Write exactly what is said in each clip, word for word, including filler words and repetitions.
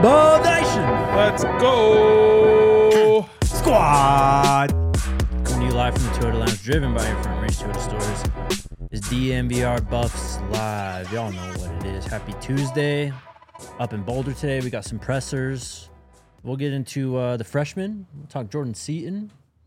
Ball Nation. Let's go. Squad. Coming to you live from the Toyota Lounge, driven by your front range Toyota stores. It's D M V R Buffs Live. Y'all know what it is. Happy Tuesday. Up in Boulder today, we got some pressers. We'll get into uh, the freshmen. We'll talk Jordan Seaton.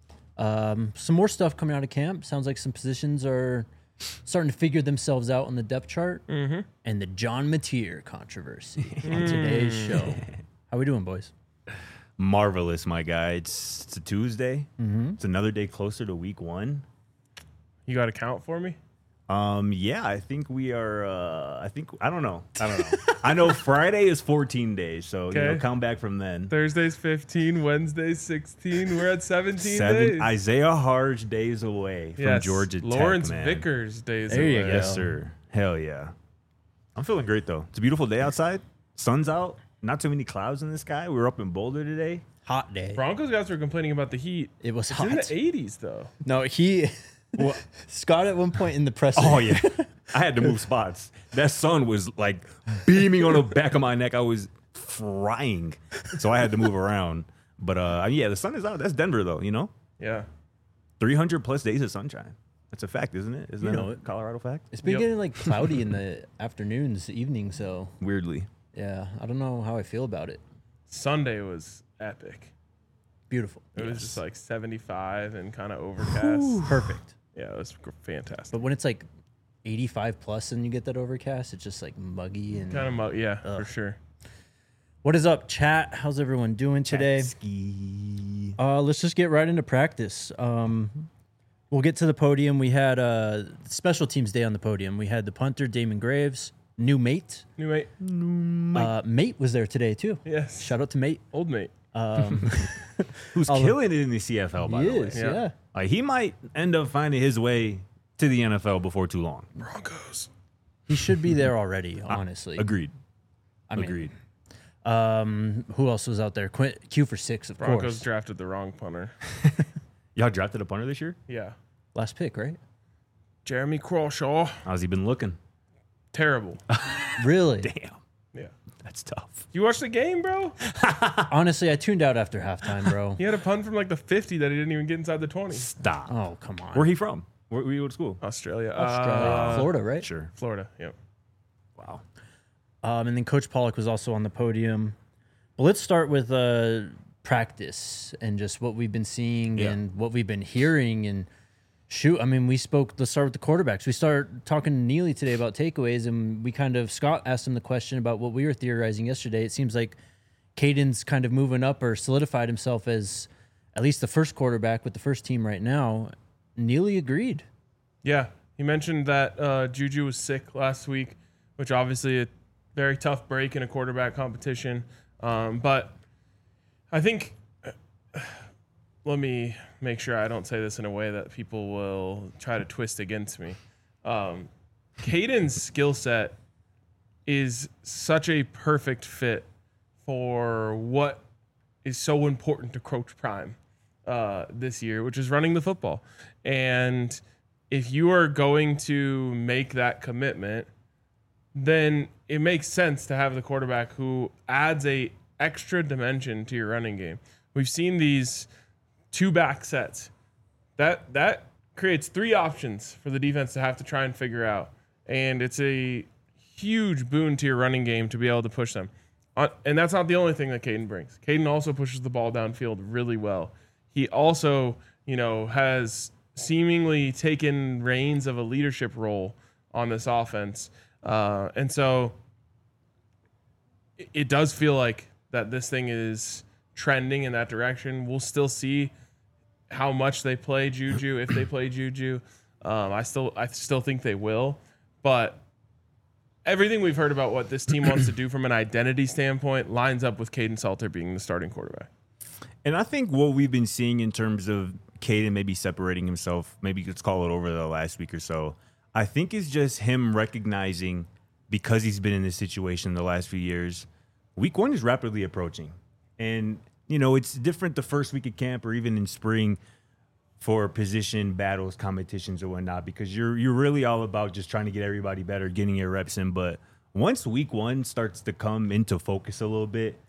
Um, some more stuff coming out of camp. Sounds like some positions are starting to figure themselves out on the depth chart. Mm-hmm. And the John Mateer controversy on today's show. How we doing, boys? Marvelous, my guy. It's, it's a Tuesday. Mm-hmm. It's another day closer to week one. You got a count for me? Um, yeah, I think we are. Uh, I think I don't know. I don't know. I know Friday is fourteen days, so you know, Okay. count back from then. Thursday's fifteen, Wednesday's sixteen. We're at seventeen Seven days. Isaiah Harge days away from yes. Georgia Lawrence Tech, man. Vickers days There you away. go. Yes, sir. Hell yeah. I'm feeling great though. It's a beautiful day outside. Sun's out. Not too many clouds in the sky. We were up in Boulder today. Hot day. Broncos guys were complaining about the heat. It was It's hot. in the eighties, though. No, he... Scott at one point in the presser. Oh yeah. I had to move spots. That sun was like beaming on the back of my neck. I was frying. So I had to move around. But uh yeah, the sun is out. That's Denver though, you know? Yeah. three hundred plus days of sunshine. That's a fact, isn't it? Isn't You that know a it. Colorado fact? It's been Yep. getting like cloudy in the afternoons, evenings, so Weirdly. yeah, I don't know how I feel about it. Sunday was epic. Beautiful. It was Yes. just like seventy-five and kind of overcast. Perfect. Yeah, it was gr- fantastic. But when it's like eighty-five plus and you get that overcast, it's just like muggy and Kind of, mo- yeah, Ugh. for sure. What is up, chat? How's everyone doing today? Ski. Uh, let's just get right into practice. Um, we'll get to the podium. We had uh, special teams day on the podium. We had the punter, Damon Graves, new mate. New mate. Uh, mate was there today, too. Yes. Shout out to mate. Old mate. Um, Who's I'll- killing it in the C F L, by he the way. is, Yeah. yeah. Like, he might end up finding his way to the N F L before too long. Broncos. He should be there already, honestly. Agreed. I mean, Agreed. Um, who else was out there? Quint, Q for six, of Broncos course. drafted the wrong punter. Y'all drafted a punter this year? Yeah. Last pick, right? Jeremy Crawshaw. How's he been looking? Terrible. Really? Damn. Yeah. That's tough. You watched the game, bro? Honestly, I tuned out after halftime, bro. He had a punt from like the fifty that he didn't even get inside the twenty. Stop. Oh, come on. Where he from? Where, where you go to school? Australia. Australia. Uh, Florida, right? Sure. Florida, yep. Wow. Um, and then Coach Pollock was also on the podium. Well, let's start with uh, practice and just what we've been seeing Yeah. and what we've been hearing. And shoot, I mean, we spoke, let's start with the quarterbacks. We started talking to Neely today about takeaways, and we kind of, Scott asked him the question about what we were theorizing yesterday. It seems like Caden's kind of moving up or solidified himself as at least the first quarterback with the first team right now. Neely agreed. Yeah. He mentioned that uh, Juju was sick last week, which obviously a very tough break in a quarterback competition. Um, but I think, let me make sure I don't say this in a way that people will try to twist against me. Um, Caden's skill set is such a perfect fit for what is so important to Coach Prime uh, this year, which is running the football. And if you are going to make that commitment, then it makes sense to have the quarterback who adds a extra dimension to your running game. We've seen these two back sets. That that creates three options for the defense to have to try and figure out. And it's a huge boon to your running game to be able to push them. Uh, and that's not the only thing that Caden brings. Caden also pushes the ball downfield really well. He also, you know, has seemingly taken reins of a leadership role on this offense. Uh, and so it, it does feel like that this thing is trending in that direction. We'll still see how much they play Juju, if they play Juju. Um, I still I still think they will. But everything we've heard about what this team wants to do from an identity standpoint lines up with Caden Salter being the starting quarterback. And I think what we've been seeing in terms of Caden maybe separating himself, maybe let's call it over the last week or so, I think is just him recognizing, because he's been in this situation the last few years, week one is rapidly approaching. And, you know, it's different the first week of camp or even in spring for position battles, competitions or whatnot, because you're you're really all about just trying to get everybody better, getting your reps in. But once week one starts to come into focus a little bit,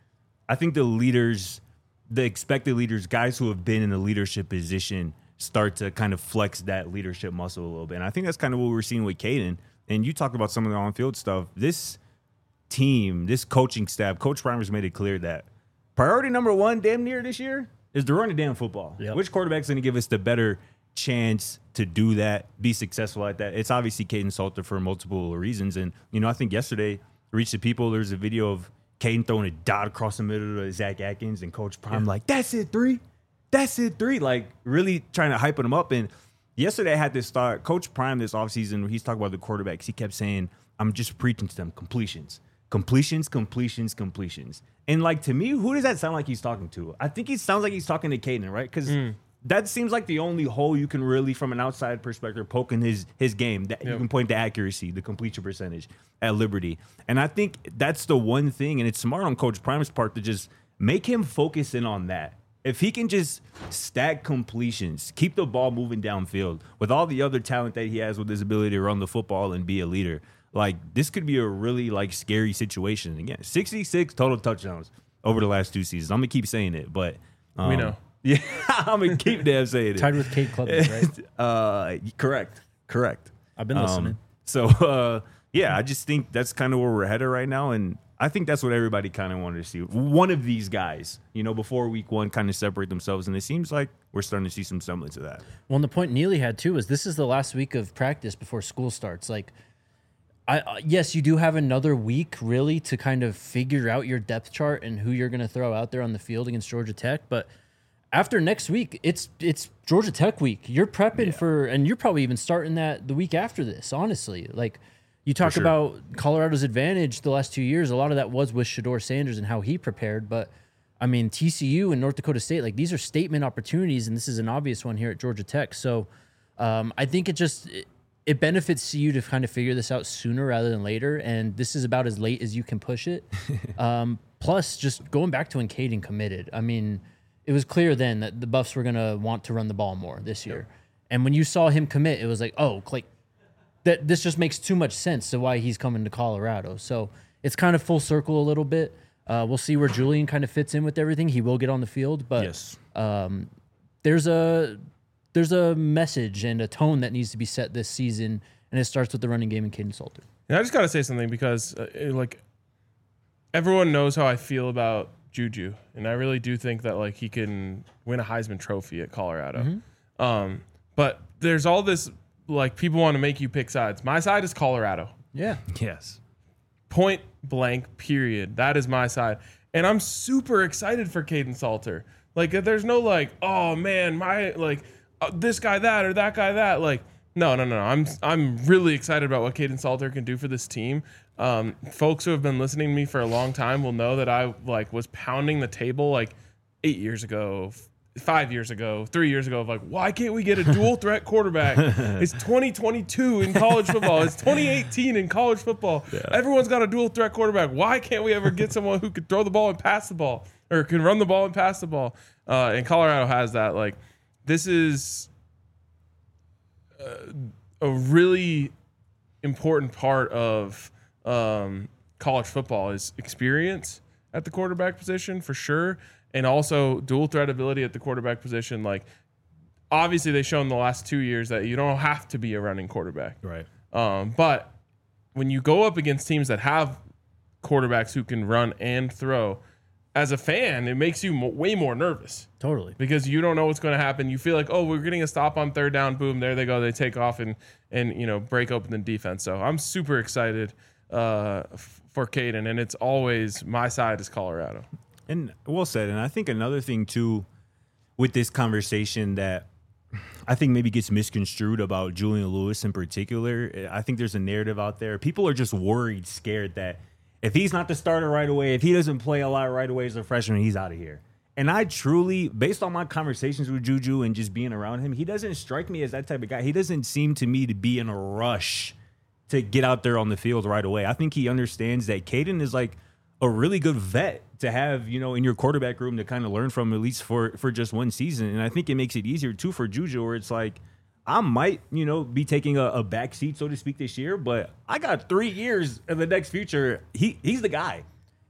I think the leaders, the expected leaders, guys who have been in the leadership position, start to kind of flex that leadership muscle a little bit. And I think that's kind of what we're seeing with Caden. And you talked about some of the on-field stuff. This team, this coaching staff, Coach Primer's made it clear that priority number one damn near this year is to run the damn football. Yep. Which quarterback's going to give us the better chance to do that, be successful at that? It's obviously Caden Salter for multiple reasons. And, you know, I think yesterday, Reach the People, there's a video of Caden throwing a dot across the middle to Zach Atkins and Coach Prime Yeah. like, that's it, three. That's it, three. Like, really trying to hype him up. And yesterday I had this thought. Coach Prime this offseason, he's talking about the quarterbacks. He kept saying, I'm just preaching to them, completions. Completions, completions, completions. And, like, to me, who does that sound like he's talking to? I think he sounds like he's talking to Caden, right? Because mm. that seems like the only hole you can really, from an outside perspective, poke in his, his game. That yep. You can point to accuracy, the completion percentage at Liberty. And I think that's the one thing, and it's smart on Coach Prime's part to just make him focus in on that. If he can just stack completions, keep the ball moving downfield with all the other talent that he has with his ability to run the football and be a leader, like, this could be a really, like, scary situation. Again, sixty-six total touchdowns over the last two seasons. I'm going to keep saying it, but um, we know. Yeah, I'm going to keep damn saying it. Tied with Cade Klubnik, right? uh, correct. Correct. I've been listening. Um, so, uh, yeah, I just think that's kind of where we're headed right now, and I think that's what everybody kind of wanted to see. One of these guys, you know, before week one kind of separate themselves, and it seems like we're starting to see some semblance of that. Well, and the point Neely had, too, is this is the last week of practice before school starts. Like, I uh, yes, you do have another week, really, to kind of figure out your depth chart and who you're going to throw out there on the field against Georgia Tech, but after next week, it's it's Georgia Tech week. You're prepping yeah. for, and you're probably even starting that the week after this, honestly. Like, you talk sure. about Colorado's advantage the last two years. A lot of that was with Shedeur Sanders and how he prepared. But, I mean, T C U and North Dakota State, like, these are statement opportunities, and this is an obvious one here at Georgia Tech. So um, I think it just it, it benefits you to kind of figure this out sooner rather than later, and this is about as late as you can push it. um, plus, just going back to when Caden committed, I mean, it was clear then that the Buffs were going to want to run the ball more this year. Yep. And when you saw him commit, it was like, oh, like, that this just makes too much sense to why he's coming to Colorado. So it's kind of full circle a little bit. Uh, we'll see where Julian kind of fits in with everything. He will get on the field, but yes. um, there's a there's a message and a tone that needs to be set this season, and it starts with the running game and Caden Salter. And I just got to say something because, uh, it, like, everyone knows how I feel about Juju, and I really do think that, like, he can win a Heisman Trophy at Colorado. Mm-hmm. Um, but there's all this, like, people want to make you pick sides. My side is Colorado. Yeah. Yes. Point blank, period. That is my side. And I'm super excited for Caden Salter. Like, there's no, like, oh, man, my, like, uh, this guy that or that guy that. Like, no, no, no. I'm I'm really excited about what Caden Salter can do for this team. Um, folks who have been listening to me for a long time will know that I, like, was pounding the table, like, eight years ago, five years ago, three years ago, of like, why can't we get a dual threat quarterback? It's twenty twenty-two in college football. It's twenty eighteen in college football. Yeah. Everyone's got a dual threat quarterback. Why can't we ever get someone who could throw the ball and pass the ball, or can run the ball and pass the ball? Uh, and Colorado has that. Like, this is uh, a really important part of um, college football is experience at the quarterback position, for sure. And also dual threat ability at the quarterback position. Like, obviously they've shown the last two years that you don't have to be a running quarterback. Right. Um, but when you go up against teams that have quarterbacks who can run and throw, as a fan, it makes you mo- way more nervous. Totally. Because you don't know what's going to happen. You feel like, oh, we're getting a stop on third down. Boom, there they go. They take off and, and you know, break open the defense. So I'm super excited uh, f- for Caden, and it's always my side is Colorado. And well said. And I think another thing, too, with this conversation that I think maybe gets misconstrued about Julian Lewis in particular, I think there's a narrative out there. People are just worried, scared that if he's not the starter right away, if he doesn't play a lot right away as a freshman, he's out of here. And I truly, based on my conversations with Juju and just being around him, he doesn't strike me as that type of guy. He doesn't seem to me to be in a rush to get out there on the field right away. I think he understands that Caden is like a really good vet to have, you know, in your quarterback room to kind of learn from, at least for, for just one season. And I think it makes it easier, too, for Juju, where it's like, I might, you know, be taking a, a back seat, so to speak, this year, but I got three years in the next future. He He's the guy.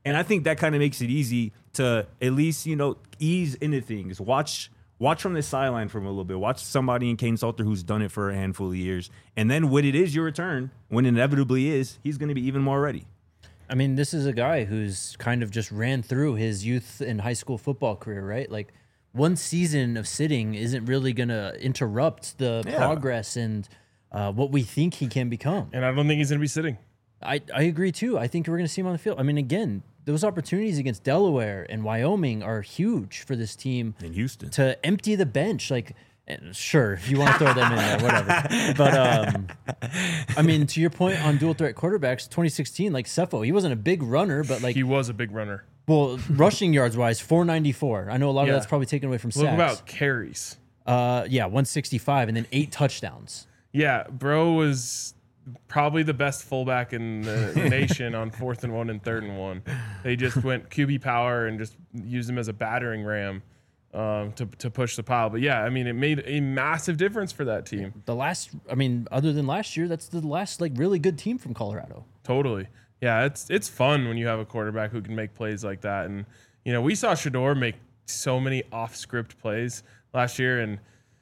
And I think that kind of makes it easy to at least, you know, ease into things. Watch watch from the sideline for a little bit. Watch somebody in Kane Salter who's done it for a handful of years. And then when it is your return, when it inevitably is, he's going to be even more ready. I mean, this is a guy who's kind of just ran through his youth and high school football career, right? Like, one season of sitting isn't really going to interrupt the Yeah. progress and uh, what we think he can become. And I don't think he's going to be sitting. I, I agree, too. I think we're going to see him on the field. I mean, again, those opportunities against Delaware and Wyoming are huge for this team In Houston. to empty the bench. Like, and sure, if you want to throw them in there, whatever. But, um, I mean, to your point on dual threat quarterbacks, twenty sixteen, like Cepho, he wasn't a big runner, but like, He was a big runner. well, rushing yards wise, four ninety-four. I know a lot Yeah. of that's probably taken away from Look sacks. about carries. Uh, yeah, one sixty-five and then eight touchdowns. Yeah, bro was probably the best fullback in the nation on fourth and one and third and one. They just went Q B power and just used him as a battering ram um, to to push the pile. But yeah, I mean, it made a massive difference for that team. The last, I mean, other than last year, that's the last like really good team from Colorado. Totally. Yeah, it's it's fun when you have a quarterback who can make plays like that. And you know, we saw Shador make so many off-script plays last year, and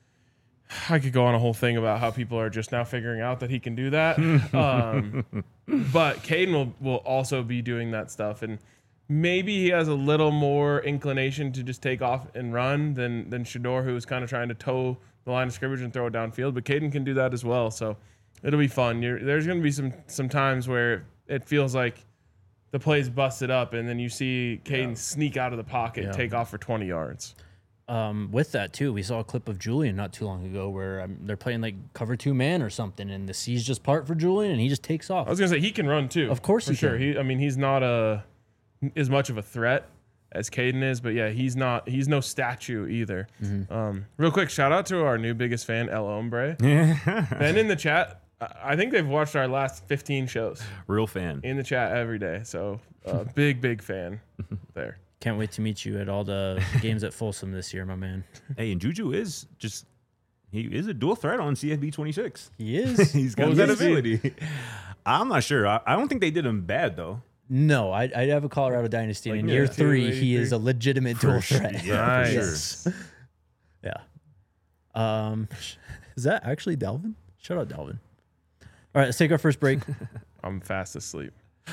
I could go on a whole thing about how people are just now figuring out that he can do that. um, but Caden will, will also be doing that stuff. And maybe he has a little more inclination to just take off and run than, than Shador, who was kind of trying to toe the line of scrimmage and throw it downfield. But Caden can do that as well. So it'll be fun. You're, there's going to be some, some times where it feels like the play's busted up, and then you see Caden yeah. sneak out of the pocket, yeah. take off for twenty yards. Um, with that too, we saw a clip of Julian not too long ago where um, they're playing like cover two man or something, and the C's just part for Julian, and he just takes off. I was gonna say he can run too. Of course, for he sure. can. He, I mean, he's not a as much of a threat as Caden is, but yeah, he's not. He's no statue either. Mm-hmm. Um, real quick, shout out to our new biggest fan, El Hombre. Ben in the chat. I think they've watched our last fifteen shows. Real fan. In the chat every day. So uh, big, big fan there. Can't wait to meet you at all the games at Folsom this year, my man. Hey, and Juju is just, he is a dual threat on C F B twenty-six. He is. He's got that ability. I'm not sure. I, I don't think they did him bad, though. No, I, I have a Colorado Dynasty. Like, in yeah, year two, three, eight, he three. is a legitimate For dual sure. threat. Yeah, Nice. for Yes. Yeah. Um, is that actually Dalvin? Shout out Dalvin. All right, let's take our first break. I'm fast asleep.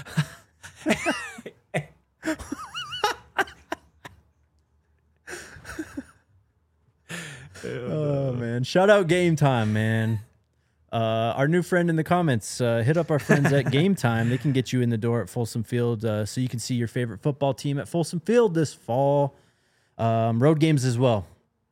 Oh man! Shout out Game Time, man. Uh, our new friend in the comments, uh, hit up our friends at Game Time. They can get you in the door at Folsom Field, uh, so you can see your favorite football team at Folsom Field this fall. Um, road games as well.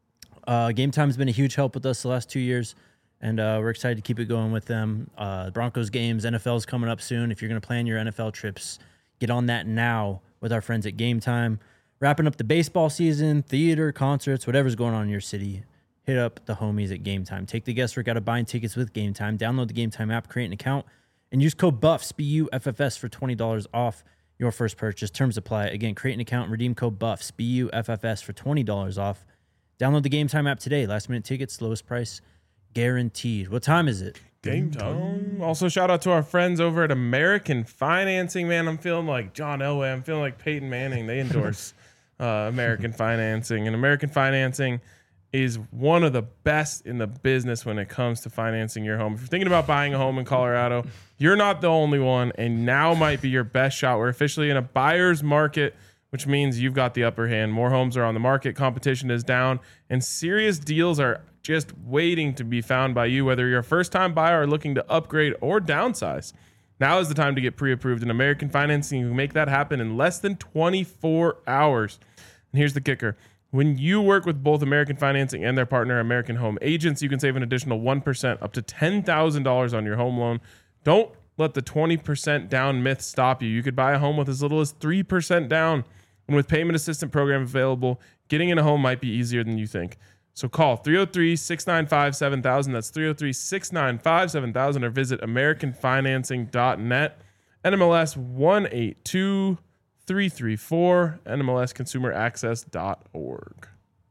Uh, Game Time has been a huge help with us the last two years, and uh, we're excited to keep it going with them. Uh, Broncos games, N F L is coming up soon. If you're going to plan your N F L trips, get on that now with our friends at Game Time. Wrapping up the baseball season, theater, concerts, whatever's going on in your city. Hit up the homies at Game Time. Take the guesswork out of buying tickets with Game Time. Download the Game Time app, create an account, and use code BUFFS, B U F F S, for twenty dollars off your first purchase. Terms apply. Again, create an account and redeem code BUFFS, B U F F S, for twenty dollars off. Download the Game Time app today. Last minute tickets, lowest price guaranteed. What time is it? Game time. Also, shout out to our friends over at American Financing. Man, I'm feeling like John Elway. I'm feeling like Peyton Manning. They endorse uh, American Financing. And American Financing is one of the best in the business when it comes to financing your home. If you're thinking about buying a home in Colorado, you're not the only one, and now might be your best shot. We're officially in a buyer's market, which means you've got the upper hand. More homes are on the market, competition is down, and serious deals are just waiting to be found by you, whether you're a first-time buyer or looking to upgrade or downsize. Now is the time to get pre-approved, and American Financing can make that happen in less than twenty-four hours. And here's the kicker. When you work with both American Financing and their partner, American Home Agents, you can save an additional one percent up to ten thousand dollars on your home loan. Don't let the twenty percent down myth stop you. You could buy a home with as little as three percent down. And with payment assistance program available, getting in a home might be easier than you think. So call three oh three, six nine five, seven thousand. That's three oh three, six nine five, seven thousand, or visit american financing dot net. N M L S one eight two three three four, N M L S consumer access dot org.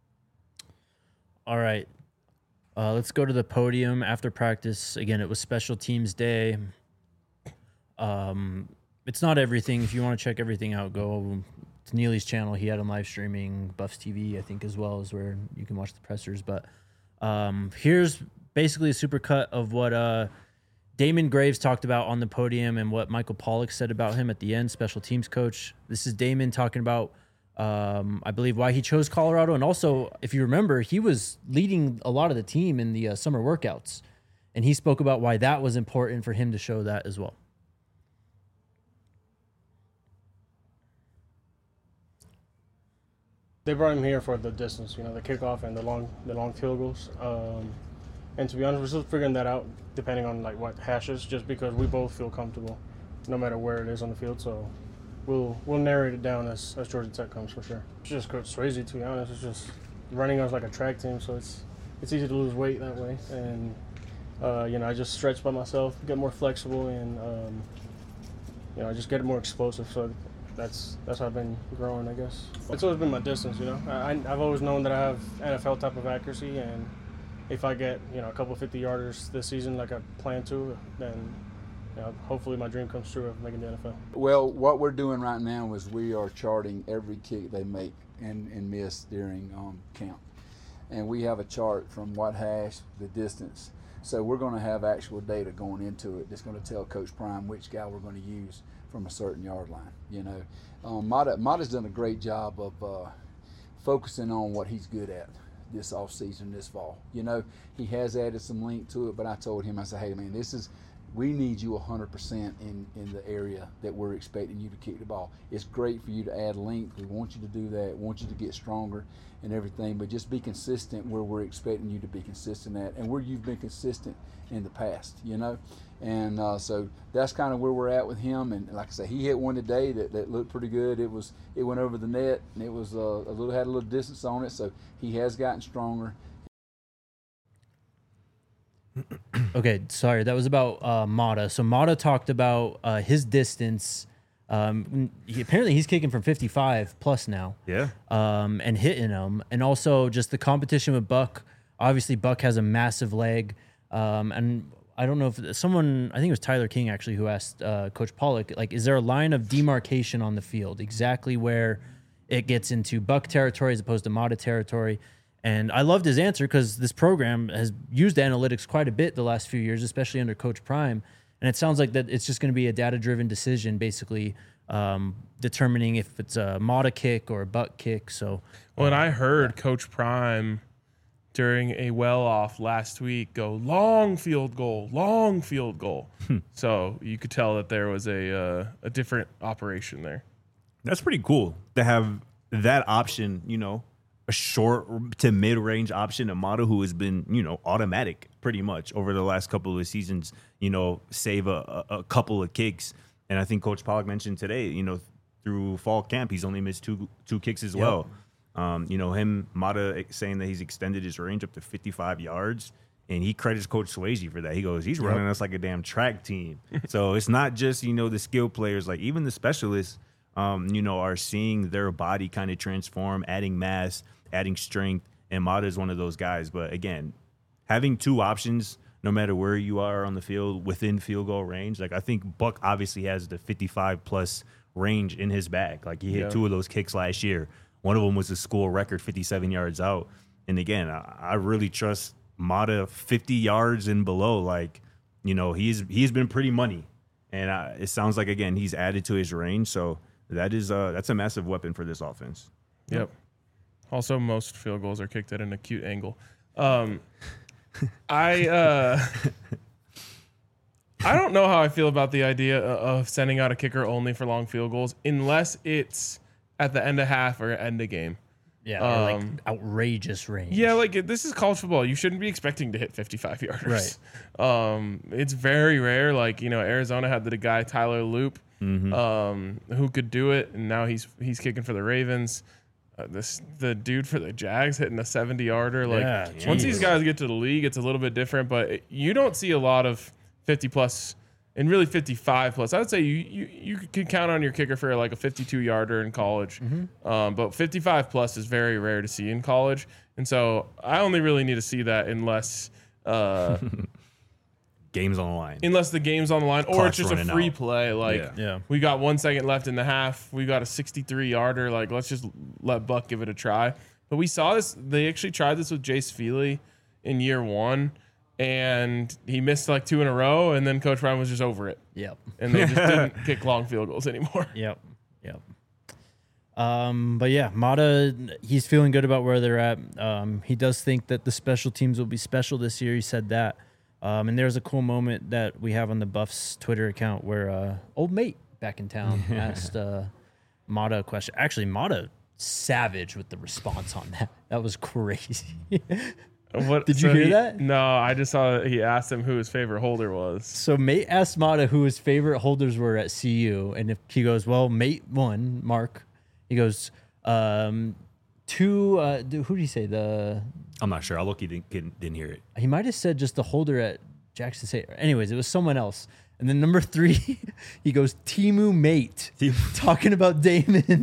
All right. Uh, let's go to the podium after practice. Again, it was Special Teams Day. Um, it's not everything. If you want to check everything out, go to Neely's channel. He had him live streaming Buffs T V, I think, as well, as where you can watch the pressers. But um, here's basically a supercut of what uh, Damon Graves talked about on the podium and what Michael Pollock said about him at the end, special teams coach. This is Damon talking about, um, I believe, why he chose Colorado. And also, if you remember, he was leading a lot of the team in the uh, summer workouts. And he spoke about why that was important for him to show that as well. They brought him here for the distance, you know, the kickoff and the long, the long field goals. Um, and to be honest, we're still figuring that out, depending on like what hashes. Just because we both feel comfortable, no matter where it is on the field. So we'll we'll narrate it down as, as Georgia Tech comes for sure. It's just Coach Swayze, to be honest. It's just running us like a track team, so it's it's easy to lose weight that way. And uh, you know, I just stretch by myself, get more flexible, and um, you know, I just get more explosive. So. That's that's how I've been growing, I guess. It's always been my distance, you know. I, I've always known that I have N F L type of accuracy, and if I get, you know, a couple fifty-yarders this season like I plan to, then, you know, hopefully my dream comes true of making the N F L. Well, what we're doing right now is we are charting every kick they make and, and miss during um, camp. And we have a chart from what hash, the distance. So we're going to have actual data going into it that's going to tell Coach Prime which guy we're going to use from a certain yard line. You know, um, Mata, Mata's done a great job of uh, focusing on what he's good at this off season, this fall. You know, he has added some length to it, but I told him, I said, hey man, this is, we need you one hundred percent in, in the area that we're expecting you to kick the ball. It's great for you to add length. We want you to do that. We want you to get stronger and everything, but just be consistent where we're expecting you to be consistent at and where you've been consistent in the past, you know? And uh, so that's kind of where we're at with him. And like I said, he hit one today that, that looked pretty good. It was it went over the net, and it was uh, a little had a little distance on it. So he has gotten stronger. Okay, sorry, that was about uh, Mata. So Mata talked about uh, his distance. Um, he, apparently, he's kicking from fifty-five plus now. Yeah. Um, and hitting them, and also just the competition with Buck. Obviously, Buck has a massive leg, um, and I don't know if someone, I think it was Tyler King actually, who asked uh, Coach Pollock, like, is there a line of demarcation on the field, exactly where it gets into Buck territory as opposed to Mata territory? And I loved his answer because this program has used analytics quite a bit the last few years, especially under Coach Prime. And it sounds like that it's just going to be a data-driven decision, basically um, determining if it's a Mata kick or a Buck kick. So, well, and I heard Coach Prime during a well-off last week go long field goal, long field goal. So you could tell that there was a uh, a different operation there. That's pretty cool to have that option, you know, a short to mid-range option, a Mata who has been, you know, automatic pretty much over the last couple of seasons, you know, save a, a, a couple of kicks. And I think Coach Pollock mentioned today, you know, through fall camp, he's only missed two two kicks as Yep. well. Um, you know, him, Mata saying that he's extended his range up to fifty-five yards, and he credits Coach Swayze for that. He goes, he's running us like a damn track team. So it's not just, you know, the skill players, like even the specialists, um, you know, are seeing their body kind of transform, adding mass, adding strength, and Mata is one of those guys. But again, having two options, no matter where you are on the field, within field goal range, like I think Buck obviously has the fifty-five plus range in his bag. Like he hit Yeah. two of those kicks last year. One of them was a school record, fifty-seven yards out. And again, I, I really trust Mata fifty yards and below. Like, you know, he's he's been pretty money, and uh, it sounds like again he's added to his range. So that is uh that's a massive weapon for this offense. Yep. Also, most field goals are kicked at an acute angle. Um, I uh, I don't know how I feel about the idea of sending out a kicker only for long field goals, unless it's at the end of half or end of game. Yeah, or like Um, outrageous range. Yeah, like this is college football. You shouldn't be expecting to hit fifty-five yarders. Right. Um, it's very rare. Like, you know, Arizona had the guy Tyler Loop, Mm-hmm. um, who could do it, and now he's he's kicking for the Ravens. Uh, this the dude for the Jags hitting a seventy yarder. Like Yeah, once geez. these guys get to the league, it's a little bit different. But it, you don't see a lot of fifty plus. And really fifty-five plus. I would say you, you you could count on your kicker for like a fifty-two yarder in college. Mm-hmm. Um, but fifty-five plus is very rare to see in college. And so I only really need to see that unless uh, game's on the line. unless the game's on the line, or Clock's it's just a running free out. play. Like Yeah. Yeah. we got one second left in the half. We got a sixty-three yarder. Like let's just let Buck give it a try. But we saw this. They actually tried this with Jace Feely in year one, and he missed like two in a row. And then Coach Brown was just over it, Yep. and they just didn't kick long field goals anymore. Yep. Yep. Um, but yeah, Mata, he's feeling good about where they're at. Um, he does think that the special teams will be special this year. He said that. Um, and there's a cool moment that we have on the Buffs Twitter account where uh, old mate back in town asked uh, Mata a question. Actually, Mata savage with the response on that. That was crazy. What, Did you hear he- that? No, I just saw that he asked him who his favorite holder was. So mate asked Mata who his favorite holders were at C U, and if he goes, well, mate one, Mark. He goes, um, two. Uh, who did he say? The I'm not sure. I look, he didn't, didn't hear it. he might have said just the holder at Jackson State. Anyways, it was someone else. And then number three, he goes Timu mate, talking about Damon.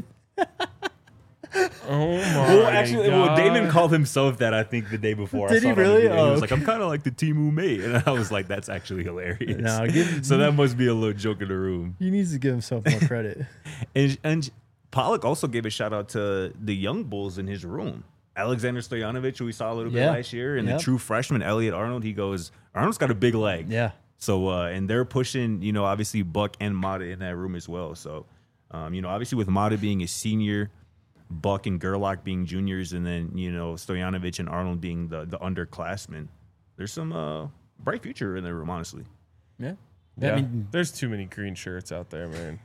Oh my Well, actually, God. well, Damon called himself that, I think, the day before. Did I he saw it on the really? video. Oh, He was like, okay. I'm kind of like the Timu mate. And I was like, that's actually hilarious. No, give- so that must be a little joke in the room. He needs to give himself more credit. And, and Pollock also gave a shout out to the young bulls in his room. Alexander Stojanovic, who we saw a little bit Yeah. last year, and Yep. the true freshman, Elliot Arnold. He goes, Arnold's got a big leg. Yeah. So, uh, and they're pushing, you know, obviously Buck and Mata in that room as well. So, um, you know, obviously with Mata being a senior, Buck and Gerlach being juniors, and then, you know, Stojanovic and Arnold being the, the underclassmen, there's some uh, bright future in their room, honestly. Yeah. Yeah, I mean, there's too many green shirts out there, man.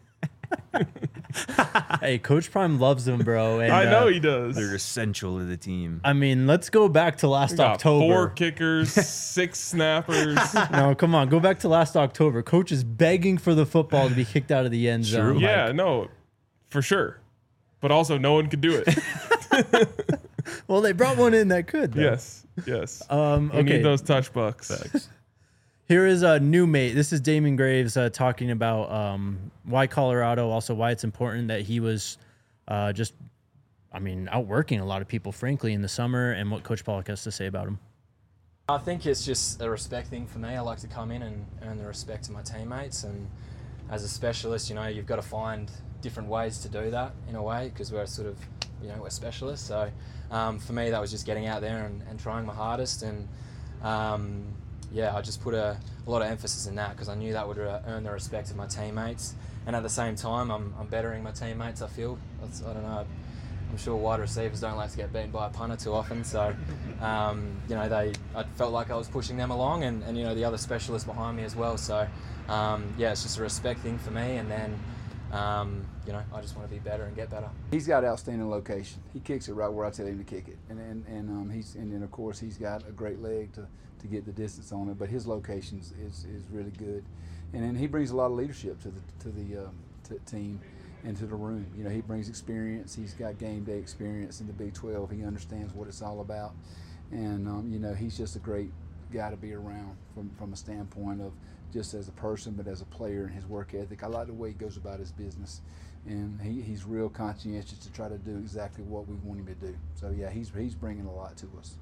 hey, Coach Prime loves them, bro. And, I know uh, he does. They're essential to the team. I mean, let's go back to last We got October. four kickers, six snappers. No, come on. Go back to last October. Coach is begging for the football to be kicked out of the end zone. Like, Yeah, no, for sure. But also, no one could do it. well, they brought one in that could. Though. yes, yes. Um, We okay. need those touch bucks. Here is a new mate. This is Damon Graves uh, talking about um, why Colorado, also why it's important that he was uh, just, I mean, outworking a lot of people, frankly, in the summer, and what Coach Pollock has to say about him. I think it's just a respect thing for me. I like to come in and earn the respect of my teammates, and as a specialist, you know, you've got to find different ways to do that in a way, because we're sort of, you know, we're specialists. So um, for me, that was just getting out there and, and trying my hardest, and um, yeah, I just put a, a lot of emphasis in that because I knew that would uh, earn the respect of my teammates, and at the same time, I'm, I'm bettering my teammates. I feel That's, I don't know. I'm sure wide receivers don't like to get beaten by a punter too often, so um, you know they. I felt like I was pushing them along, and, and you know the other specialists behind me as well. So um, yeah, it's just a respect thing for me, and then um, you know I just want to be better and get better. He's got outstanding location. He kicks it right where I tell him to kick it, and and, and um, he's and then of course he's got a great leg to, to get the distance on it. But his location is, is, is really good, and then he brings a lot of leadership to the to the um, to team. Into the room, you know, he brings experience. He's got game day experience in the Big twelve. He understands what it's all about, and um, you know, he's just a great guy to be around from from a standpoint of just as a person, but as a player and his work ethic. I like the way he goes about his business, and he, he's real conscientious to try to do exactly what we want him to do. So yeah, he's he's bringing a lot to us.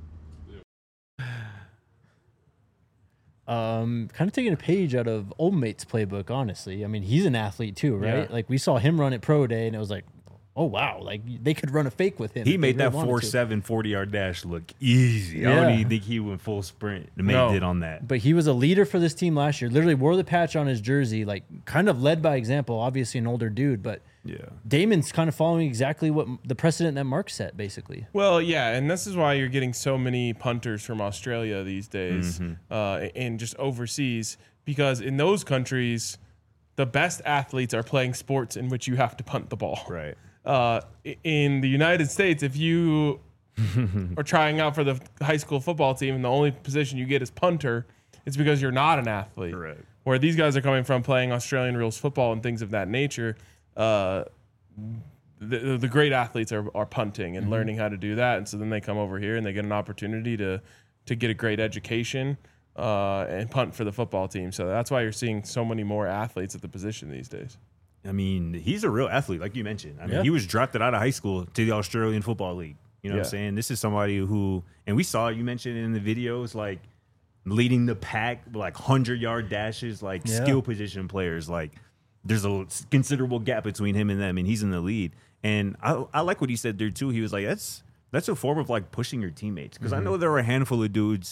Um, kind of taking a page out of Old Mate's playbook, honestly. I mean, he's an athlete too, right? Yeah. Like we saw him run at Pro Day, and it was like, oh wow, like they could run a fake with him. He if made they that really wanted four to. seven forty yard dash look easy. I Yeah. don't even think he went full sprint. The mate No. did on that. But he was a leader for this team last year. Literally wore the patch on his jersey, like kind of led by example. Obviously, an older dude, but Yeah. Damon's kind of following exactly what the precedent that Mark set, basically. Well, yeah, and this is why you're getting so many punters from Australia these days, uh, and just overseas, because in those countries, the best athletes are playing sports in which you have to punt the ball. Right. Uh, i- in the United States, if you are trying out for the high school football team and the only position you get is punter, it's because you're not an athlete. Correct. Where these guys are coming from playing Australian rules football and things of that nature, uh, the, the great athletes are, are punting and learning how to do that. And so then they come over here and they get an opportunity to, to get a great education uh, and punt for the football team. So that's why you're seeing so many more athletes at the position these days. I mean, he's a real athlete, like you mentioned. I mean, Yeah. he was drafted out of high school to the Australian Football League. You know what Yeah. I'm saying? This is somebody who, and we saw, you mentioned in the videos, like, leading the pack, like hundred yard dashes, like Yeah. skill position players. Like there's a considerable gap between him and them, and he's in the lead. And I, I like what he said there too. He was like, that's that's a form of like pushing your teammates, because Mm-hmm. I know there are a handful of dudes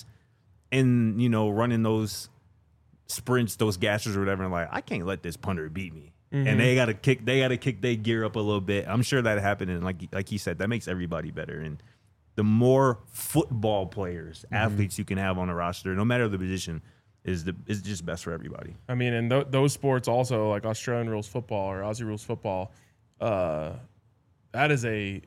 in, you know, running those sprints, those gassers or whatever, and like, I can't let this punter beat me. Mm-hmm. And they gotta kick, they gotta kick their gear up a little bit. I'm sure that happened, and like like he said, that makes everybody better. And the more football players, Mm-hmm. athletes you can have on a roster, no matter the position, is the is just best for everybody. I mean, and th- those sports also, like Australian rules football or Aussie rules football, uh, that is a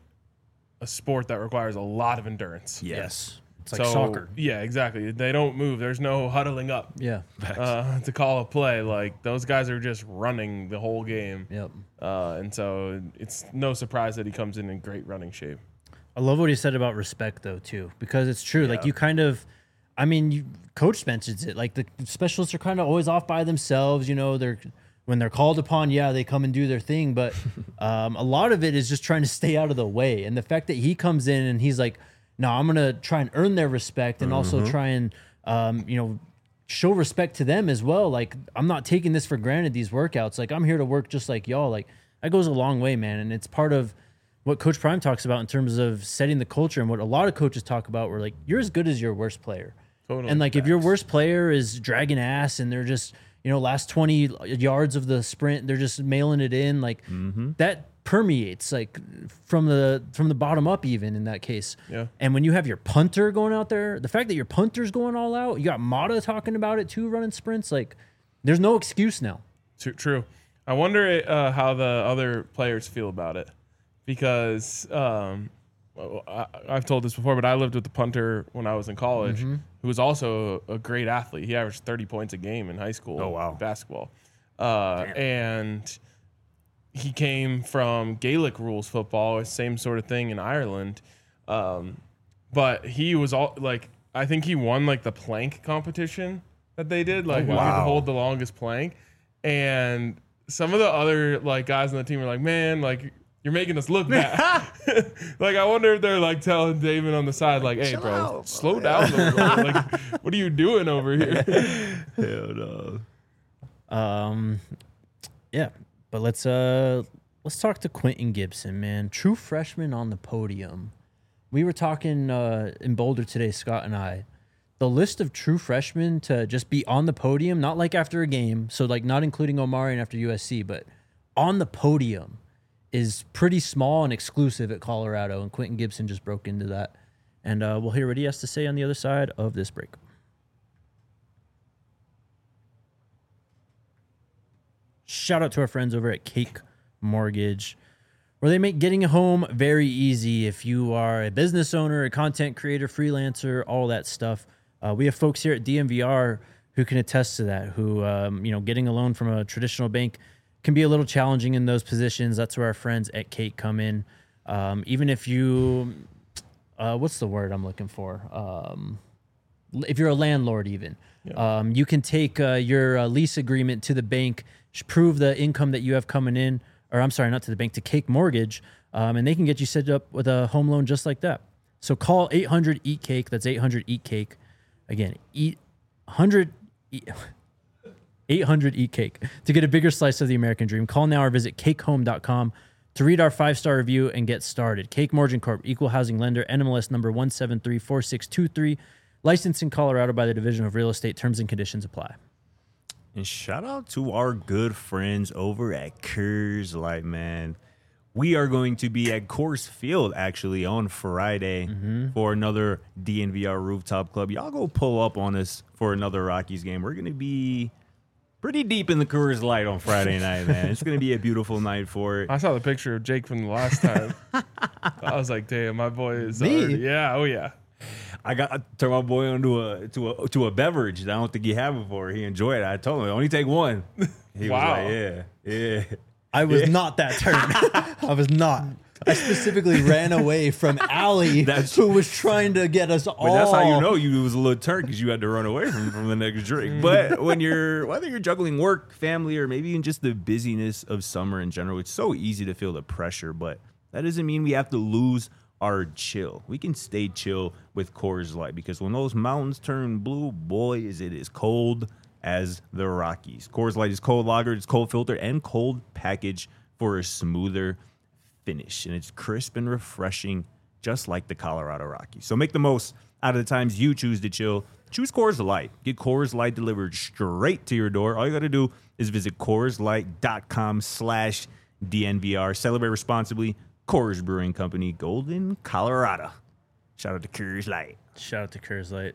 a sport that requires a lot of endurance. Yes. It's like So, soccer. Yeah, exactly. They don't move. There's no huddling up Yeah. uh, to call a play. Like those guys are just running the whole game. Yep. Uh, and so it's no surprise that he comes in in great running shape. I love what he said about respect, though, too, because it's true. Like, you kind of, I mean, you, Coach mentions it. Like, the specialists are kind of always off by themselves. You know, they're when they're called upon, yeah, they come and do their thing. But um, a lot of it is just trying to stay out of the way. And the fact that he comes in and he's like, no, I'm going to try and earn their respect and also try and, um, you know, show respect to them as well. Like, I'm not taking this for granted, these workouts. Like, I'm here to work just like y'all. Like, that goes a long way, man. And it's part of what Coach Prime talks about in terms of setting the culture, and what a lot of coaches talk about, where like, you're as good as your worst player. Totally. And like, if your worst player is dragging ass and they're just, you know, last twenty yards of the sprint, they're just mailing it in, like that permeates like from the from the bottom up, even in that case. Yeah. And when you have your punter going out there, the fact that your punter's going all out, you got Mata talking about it too, running sprints, like there's no excuse now. True. True. I wonder uh, how the other players feel about it, because um, well, I, I've told this before, but I lived with the punter when I was in college, who was also a, a great athlete. He averaged thirty points a game in high school. Oh, wow. Basketball, uh, and he came from Gaelic rules football, same sort of thing in Ireland, um, but he was all like, I think he won like the plank competition that they did, like who could wow. hold the longest plank, and some of the other like guys on the team were like, man, like you're making us look bad. Like I wonder if they're like telling David on the side, like, hey, bro, slow down a little bit. Like, what are you doing over here? Hell no. Um, yeah, but let's uh let's talk to Quentin Gibson, man. True freshman on the podium. We were talking uh, in Boulder today, Scott and I. The list of true freshmen to just be on the podium, not like after a game, so like not including Omarion after U S C, but on the podium is pretty small and exclusive at Colorado, and Quentin Gibson just broke into that. And uh, we'll hear what he has to say on the other side of this break. Shout out to our friends over at Cake Mortgage, where they make getting a home very easy. If you are a business owner, a content creator, freelancer, all that stuff, uh, we have folks here at D M V R who can attest to that. Who, um, you know, getting a loan from a traditional bank can be a little challenging in those positions. That's where our friends at Cake come in. Um, even if you, uh, what's the word I'm looking for? Um, if you're a landlord, even, um, you can take uh, your uh, lease agreement to the bank, prove the income that you have coming in, or I'm sorry, not to the bank, to Cake Mortgage, um, and they can get you set up with a home loan just like that. So call eight hundred eat cake. That's eight hundred eat cake. Again, eat one hundred eight hundred eat cake to get a bigger slice of the American dream. Call now or visit cake home dot com to read our five-star review and get started. Cake Mortgage Corp, equal housing lender, N M L S number one seven three four six two three, licensed in Colorado by the Division of Real Estate. Terms and conditions apply. And shout out to our good friends over at Coors Light, man. We are going to be at Coors Field actually on Friday for another D N V R Rooftop Club. Y'all go pull up on us for another Rockies game. We're going to be pretty deep in the Coors Light on Friday night, man. It's going to be a beautiful night for it. I saw the picture of Jake from the last time. I was like, damn, my boy is Me? already, yeah, oh yeah. I got to turn my boy onto a to a to a beverage that I don't think he had before. He enjoyed it. I told him only take one. He Wow. was like, yeah, yeah. I was not that turn. I was not. I specifically ran away from Allie, That's- who was trying to get us all. But that's how you know you was a little turnt, because you had to run away from, from the next drink. But when you're, whether you're juggling work, family, or maybe even just the busyness of summer in general, it's so easy to feel the pressure. But that doesn't mean we have to lose are chill. We can stay chill with Coors Light because when those mountains turn blue, boy, is it as cold as the Rockies. Coors Light is cold lagered, it's cold filtered, and cold packaged for a smoother finish. And it's crisp and refreshing, just like the Colorado Rockies. So make the most out of the times you choose to chill. Choose Coors Light. Get Coors Light delivered straight to your door. All you got to do is visit CoorsLight.com slash DNVR. Celebrate responsibly. Coors Brewing Company, Golden, Colorado. Shout out to Coors Light. Shout out to Coors Light.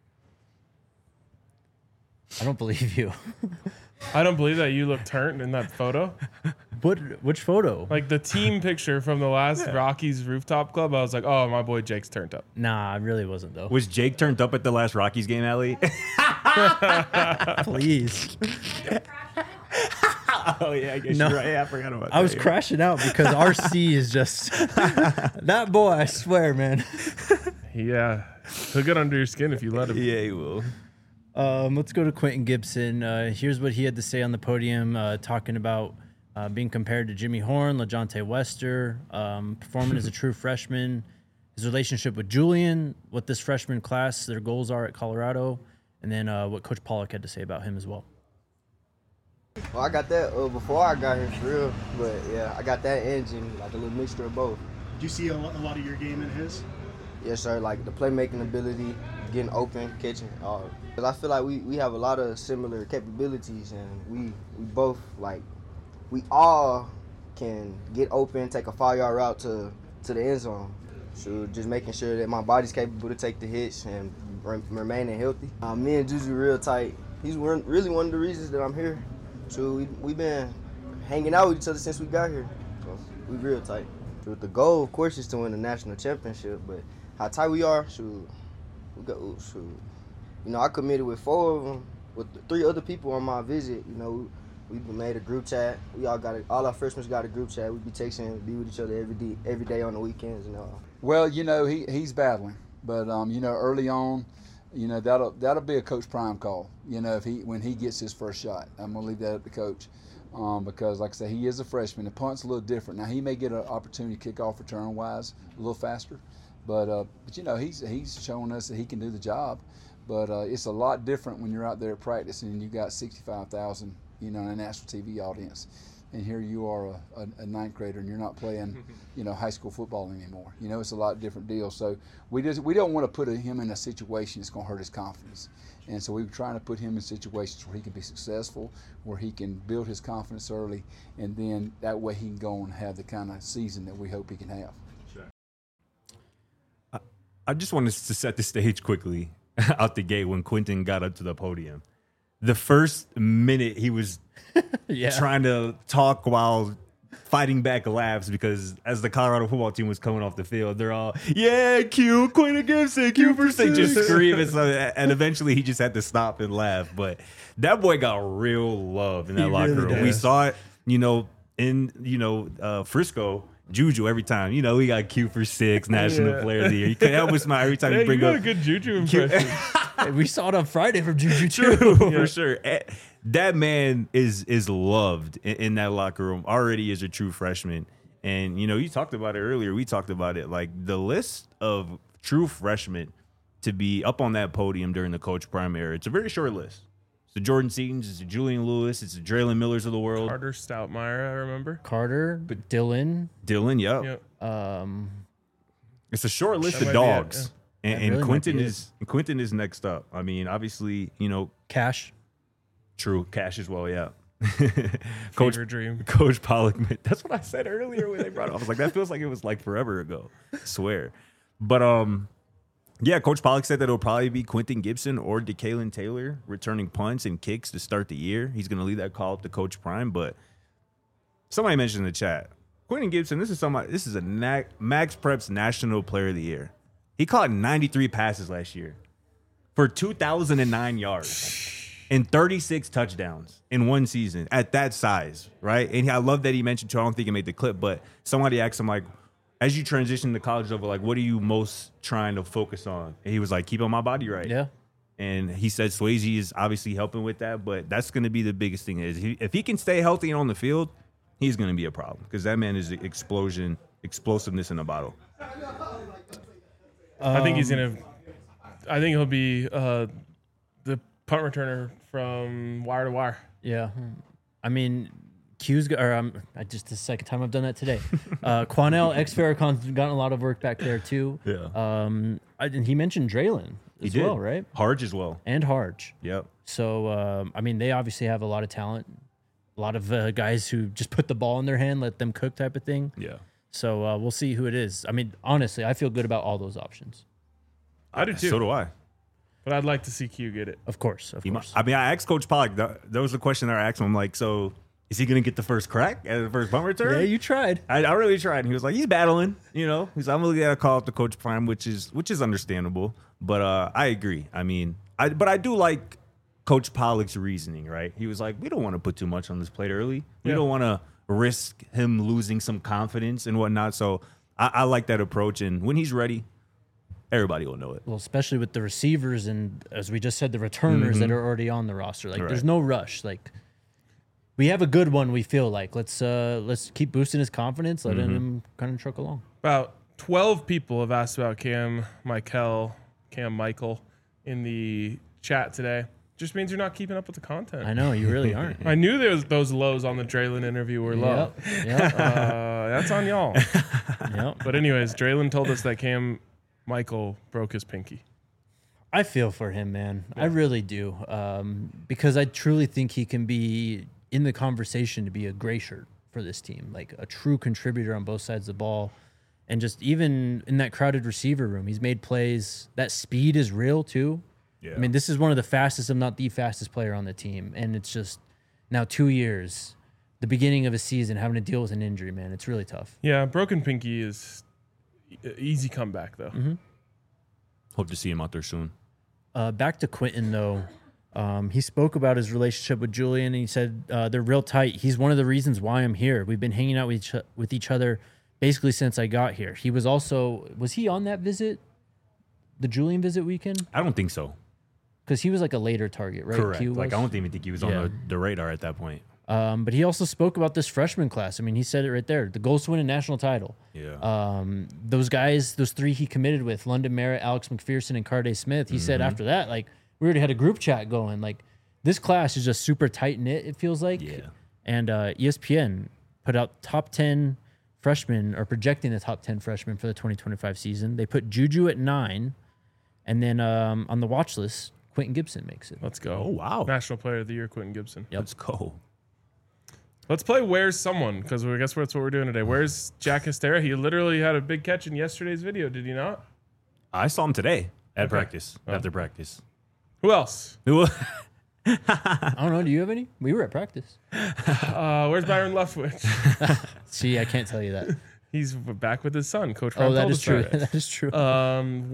I don't believe you. I don't believe that you look turned in that photo. What? Which photo? Like the team picture from the last Rockies rooftop club, I was like, oh, my boy Jake's turned up. Nah, I really wasn't though. Was Jake turned up at the last Rockies game, Allie? Please. Oh, yeah, I guess No. you're right. Yeah, I forgot about that. I was yeah. crashing out because R C is just that boy. I swear, man. Yeah. He'll get under your skin if you let him. Yeah, he will. Um, let's go to Quentin Gibson. Uh, here's what he had to say on the podium, uh, talking about uh, being compared to Jimmy Horn, LaJohntay Wester, um, performing as a true freshman, his relationship with Julian, what this freshman class, their goals are at Colorado, and then uh, what Coach Pollock had to say about him as well. Well, I got that uh, before I got here for real, but yeah, I got that engine, like a little mixture of both. Do you see a lot, a lot of your game in his? Yes, sir, like the playmaking ability, getting open, catching. Uh, Cause I feel like we, we have a lot of similar capabilities, and we we both like we all can get open, take a five yard route to to the end zone. So just making sure that my body's capable to take the hits and re- remaining healthy. Uh, me and Juju real tight. He's one, really one of the reasons that I'm here. So we we've been hanging out with each other since we got here. So we real tight. So the goal, of course, is to win the national championship. But how tight we are, shoot, we got shoot. You know, I committed with four of them, with three other people on my visit. You know, we, we made a group chat. We all got a, all our freshmen got a group chat. We be texting, be with each other every day, every day on the weekends and all. Well, you know, he, he's battling, but um, you know, early on, you know, that'll that'll be a Coach Prime call. You know, if he when he gets his first shot, I'm gonna leave that up to Coach, um, because like I said, he is a freshman. The punt's a little different. Now he may get an opportunity to kick off return wise a little faster, but uh, but you know, he's he's showing us that he can do the job. But uh, it's a lot different when you're out there at practice and you got sixty-five thousand, you know, in a national T V audience, and here you are a, a, a ninth grader and you're not playing, you know, high school football anymore. You know, it's a lot different deal. So we just we don't want to put him in a situation that's going to hurt his confidence, and so we're trying to put him in situations where he can be successful, where he can build his confidence early, and then that way he can go and have the kind of season that we hope he can have. Sure. I, I just wanted to set the stage quickly. Out the gate when Quentin got up to the podium. The first minute he was Yeah. trying to talk while fighting back laughs because as the Colorado football team was coming off the field, they're all, yeah, Q, Quentin Gibson, Q for six, just screaming. So, and eventually he just had to stop and laugh. But that boy got real love in that He locker really room. We does. saw it, you know, in, you know, uh, Frisco. Juju every time. You know, we got Q for six, National Yeah. Player of the Year. You can't help but smile every time Yeah, you you bring got up a good Juju impression. Hey, we saw it on Friday from Juju too. True, for sure. Eh, That man is is loved in, in that locker room already as a true freshman. And, you know, you talked about it earlier. We talked about it. Like, the list of true freshmen to be up on that podium during the Coach Prime era, it's a very short list. It's the Jordan Seatons, it's the Julian Lewis, it's the Draylon Millers of the world. Carter Stoutmeyer, I remember. Carter, Dylan. Dylan, yep. Yep. Um, It's a short list That of might be it, dogs. And, That and really might Quentin be it. is Quentin is next up. I mean, obviously, you know, Cash. true, Cash as well, yeah. Coach Coach Dream. Coach Pollock, that's what I said earlier when they brought it up. I was like, that feels like it was like forever ago. I swear. But um, yeah, Coach Pollock said that it'll probably be Quentin Gibson or DeKalen Taylor returning punts and kicks to start the year. He's going to leave that call up to Coach Prime. But somebody mentioned in the chat, Quentin Gibson, this is somebody, this is a Na- Max Preps National Player of the Year. He caught ninety-three passes last year for two thousand nine yards. And thirty-six touchdowns in one season at that size, right? And I love that he mentioned, too, I don't think he made the clip, but somebody asked him, like, as you transition to college level, like, what are you most trying to focus on? And he was like, keeping my body right. Yeah. And he said Swayze is obviously helping with that, but that's going to be the biggest thing. Is he, if he can stay healthy and on the field, he's going to be a problem because that man is explosion, explosiveness in a bottle. I think he's Um, gonna. I think he'll be uh, the punt returner from wire to wire. Yeah. I mean, Q's go- or um, I just the second time I've done that today. Uh, Quanell ex Farrakhan's gotten a lot of work back there too. Yeah. Um, I, and he mentioned Draylon He as did. well, right? Harge as well. And Harge. Yep. So um, I mean, they obviously have a lot of talent, a lot of uh, guys who just put the ball in their hand, let them cook, type of thing. Yeah. So uh, we'll see who it is. I mean, honestly, I feel good about all those options. I do too. So do I. But I'd like to see Q get it. Of course, of He course. might, I mean, I asked Coach Pollock. That, that was the question that I asked him. I'm like, so is he going to get the first crack at the first punt return? Yeah, you tried. I, I really tried. And he was like, he's battling. You know, he's I'm really gonna call up the Coach Prime, which is which is understandable. But uh, I agree. I mean, I but I do like Coach Pollock's reasoning. Right? He was like, we don't want to put too much on this plate early. We Yeah. don't want to risk him losing some confidence and whatnot. So I, I like that approach. And when he's ready, everybody will know it. Well, especially with the receivers and, as we just said, the returners that are already on the roster. Like, there's Right. no rush. Like, we have a good one. We feel like let's uh let's keep boosting his confidence, letting him kind of truck along. About twelve people have asked about Cam Michael, Cam Michael in the chat today. Just means you're not keeping up with the content. I know you really aren't. I knew there was those lows on the Draylon interview were low. Yep. Yep. Uh, that's on y'all. Yep. But anyways, Draylon told us that Cam Michael broke his pinky. I feel for him, man. I really do, um, because I truly think he can be in the conversation to be a gray shirt for this team, like a true contributor on both sides of the ball. And just even in that crowded receiver room, he's made plays. That speed is real too. Yeah. I mean, this is one of the fastest, if not the fastest player on the team. And it's just now two years, the beginning of a season, having to deal with an injury, man. It's really tough. Yeah, broken pinky is e- easy comeback though. Hope to see him out there soon. Uh, back to Quentin, though. Um, he spoke about his relationship with Julian, and he said uh, they're real tight. He's one of the reasons why I'm here. We've been hanging out with each, with each other basically since I got here. He was also, was he on that visit, the Julian visit weekend? I don't think so. Because he was like a later target, right? Correct. Q Like I was? don't even think he was Yeah. on the, the radar at that point. Um, but he also spoke about this freshman class. I mean, he said it right there. The goals to win a national title. Yeah. Um, those guys, those three he committed with, London Merritt, Alex McPherson, and Carday Smith, he said after that, like, we already had a group chat going. Like, this class is just super tight-knit, it feels like. Yeah. And uh, E S P N put out top ten freshmen, or projecting the top ten freshmen for the twenty twenty-five season. They put Juju at nine. And then um, on the watch list, Quentin Gibson makes it. Let's go. Oh, wow. National Player of the Year, Quentin Gibson. Yep. Let's go. Let's play Where's Someone, because I guess that's what we're doing today. Where's Jack Hestera? He literally had a big catch in yesterday's video, did he not? I saw him today at Okay. practice. Oh. After practice. Who else? I don't know. Do you have any? We were at practice. Uh, where's Byron Leftwich? See, I can't tell you that. He's back with his son, Coach Oh, Ron that told is us true. that. That is true. Um,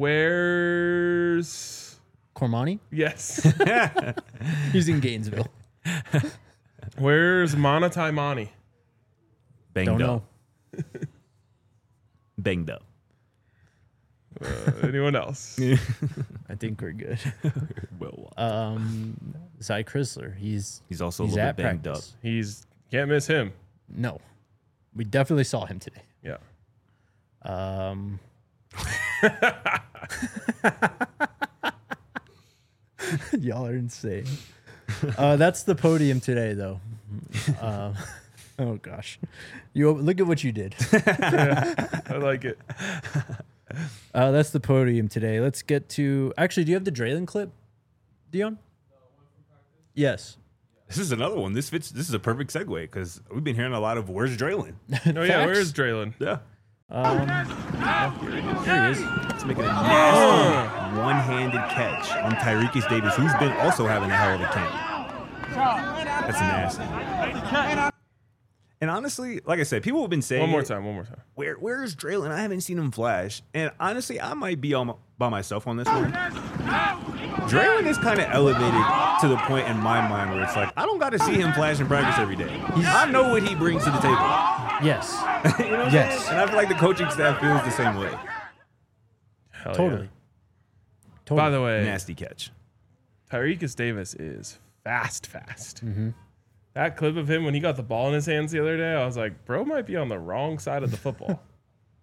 where's Cormani? yes, He's in Gainesville. where's Mana Taimani? Banged Don't up. know. Banged up. Uh, anyone else? I think we're good. Well, Um, Zy Chrysler. He's he's also he's a little at bit banged practice. He's can't miss him. No, we definitely saw him today. Yeah. Um, y'all are insane. Uh, that's the podium today, though. Uh, oh gosh, you look at what you did. I like it. Uh, that's the podium today. Let's get to. Actually, do you have the Draylon clip, Dion? Yes. This is another one. This fits. This is a perfect segue because we've been hearing a lot of where's Draylon. No, yeah. Facts. Where is Draylon? Yeah. Um, here he is. Let's make it a nasty one-handed catch on Tyreekis Davis, who's been also having a hell of a camp. That's nasty. And honestly, like I said, people have been saying One more it, time. One more time. Where where is Draylon? I haven't seen him flash. And honestly, I might be on, by myself on this one. Draylon is kind of elevated to the point in my mind where it's like, I don't got to see him flash in practice every day. I know what he brings to the table. Yes. You know what I'm Yes. saying? And I feel like the coaching staff feels the same way. Hell Totally. yeah. Totally. By the way, Nasty catch. Tyreekis Davis is fast, fast. Mm-hmm. That clip of him when he got the ball in his hands the other day, I was like, bro might be on the wrong side of the football.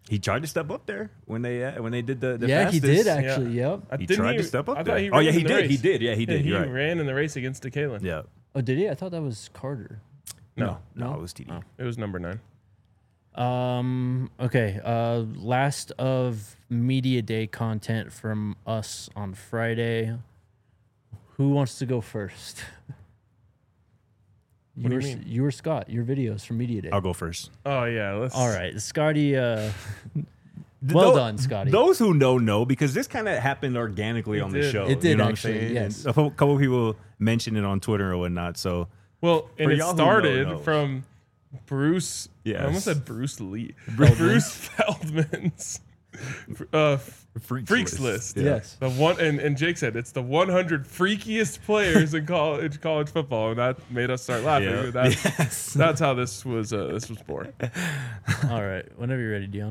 He tried to step up there when they uh, when they did the, the yeah, fastest. he did actually. Yep. I He didn't tried to step up I there. thought he Oh, ran yeah, in he the did. He race. did. Yeah, he did. he You're right. ran in the race against DeKalen. Yeah. Oh, did he? I thought that was Carter. No, No. no, it was T D. Oh, it was number nine. Um. Okay. Uh. Last of media day content from us on Friday. Who wants to go first? What do you were, mean? You were Scott. Your videos from media day. I'll go first. Oh yeah, let's. All right, Scotty. Uh, well Tho- done, Scotty. Those who know know because this kind of happened organically It on did. the show. It did you know actually, What I'm saying? yes. And a couple people mentioned it on Twitter or whatnot. So Well, and For it y'all who know, started know. from Bruce. Yes. I almost said Bruce Lee. Bruce Feldman's uh, freaks, freaks list. Yeah. Yes. The one and, and Jake said it's the one hundred freakiest players in college college football, and that made us start laughing. Yeah. That's, Yes. that's how this was. Uh, this was born. All right. Whenever you're ready, Dion.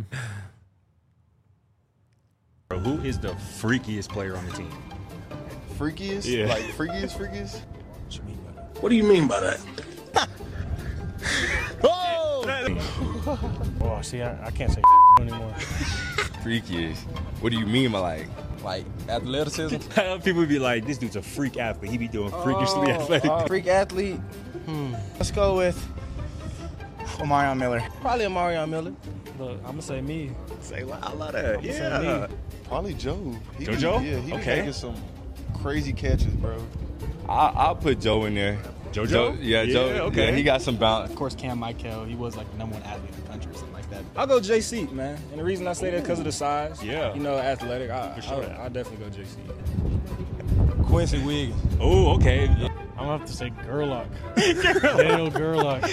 Who is the freakiest player on the team? Freakiest? Yeah. Like freakiest, freakiest? What do you mean by that? Oh, see, I, I can't say anymore. Freakiest. What do you mean by like, like athleticism? People would be like, "This dude's a freak athlete. He be doing freakishly Oh, athletic." uh, freak athlete. Hmm. Let's go with Omarion Miller. Probably Omarion Miller. Look, I'm gonna say me. Say, wow, I love that. Yeah. Probably Joe. He be- JoJo? yeah, he be Okay. making some crazy catches, bro. I, I'll put Joe in there. JoJo? Joe, yeah, Yeah, Joe. okay. Yeah, he got some bounce. Of course, Cam Michael, he was like the number one athlete in the country or something like that. I'll go J C, man. And the reason I say that because of the size. Yeah. You know, athletic. I, sure. I'll, I'll definitely go J C. Quincy Wiggins. Oh, okay. I'm gonna have to say Gerlach. Daniel Gerlach.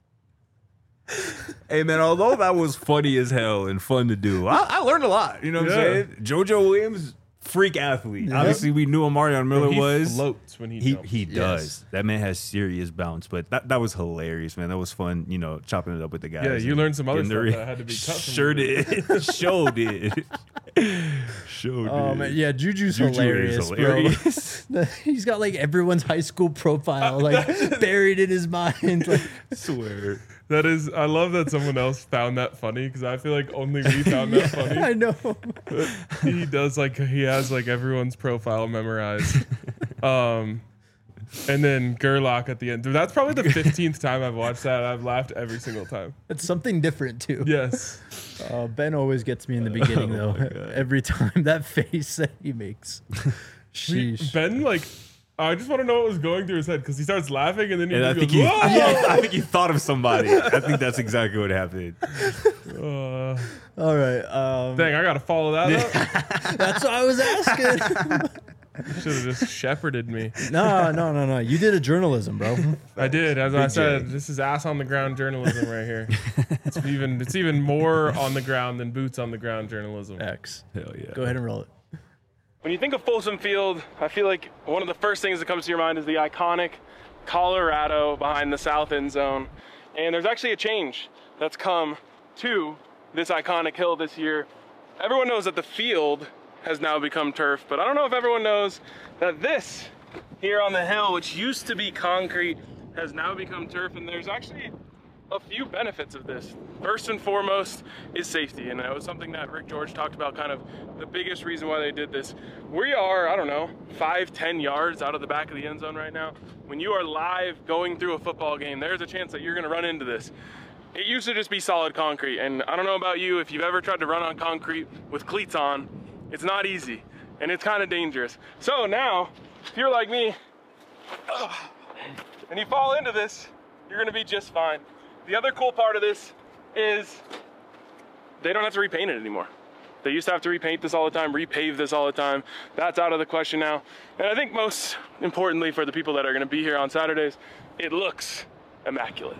Hey man, although that was funny as hell and fun to do, I, I learned a lot. You know what Yeah. I'm saying? JoJo Williams, freak athlete. Obviously, we knew Omarion Miller he was. floats when he, He jumps. he does. That man has serious bounce. But that, that was hilarious, man. That was fun. You know, chopping it up with the guys. Yeah, you and learned some other getting stuff the- that had to be cut from Sure you. did. Sure did. Sure Oh did. man, yeah, Juju's Juju is hilarious, hilarious. bro. He's got like everyone's high school profile like buried in his mind. Like, swear. That is, I love that someone else found that funny because I feel like only we found that funny. I know. He does like he has like everyone's profile memorized. Um, and then Gerlach at the end. Dude, that's probably the fifteenth time I've watched that. I've laughed every single time. It's something different too. Yes. Uh, Ben always gets me in the beginning though. Every time that face that he makes. He- Sheesh. Ben, like, I just want to know what was going through his head because he starts laughing and then he And I just think goes, he, "Whoa!" yeah, I think he thought of somebody. I think that's exactly what happened. Uh, All right. Um, dang, I got to follow that up. that's what I was asking. Should have just shepherded me. no, no, no, no. You did a journalism, bro. I did, as I Big said. J. This is ass on the ground journalism right here. It's even it's even more on the ground than boots on the ground journalism. X. Hell yeah. Go ahead and roll it. When you think of Folsom Field, I feel like one of the first things that comes to your mind is the iconic Colorado behind the south end zone. And there's actually a change that's come to this iconic hill this year. Everyone knows that the field has now become turf, but I don't know if everyone knows that this here on the hill, which used to be concrete, has now become turf. And there's actually a few benefits of this. First and foremost is safety, and that was something that Rick George talked about, kind of the biggest reason why they did this. We are, I don't know, five, ten yards out of the back of the end zone right now. When you are live going through a football game, there's a chance that you're gonna run into this. It used to just be solid concrete, and I don't know about you, if you've ever tried to run on concrete with cleats on, it's not easy, and it's kind of dangerous. So now, if you're like me, and you fall into this, you're gonna be just fine. The other cool part of this is they don't have to repaint it anymore. They used to have to repaint this all the time, repave this all the time. That's out of the question now. And I think most importantly for the people that are gonna be here on Saturdays, it looks immaculate.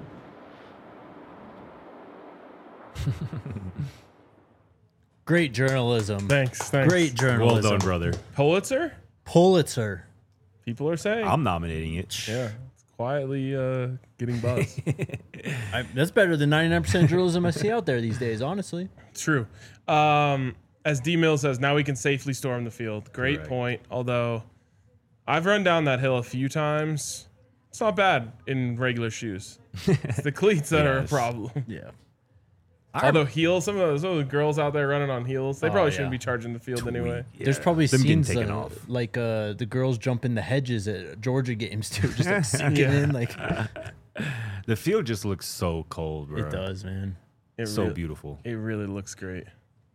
Great journalism. Thanks, thanks. Great Well journalism. done, brother. Pulitzer? Pulitzer. People are saying. I'm nominating it. yeah, it's quietly uh, getting buzz. I, that's better than ninety-nine percent journalism I see out there these days, honestly. True. Um, as D Mill says, now we can safely storm the field. Great Correct. point. Although I've run down that hill a few times. It's not bad in regular shoes. It's the cleats that are a Yes. problem. Yeah. Although heels, some of those, some of the girls out there running on heels, they Oh, probably yeah. shouldn't be charging the field anyway. There's probably Them getting scenes taken uh, off. like uh, the girls jump in the hedges at Georgia games too, just like sinking Yeah. in. Like The field just looks so cold, bro. it does, man. It So really- beautiful. It really looks great.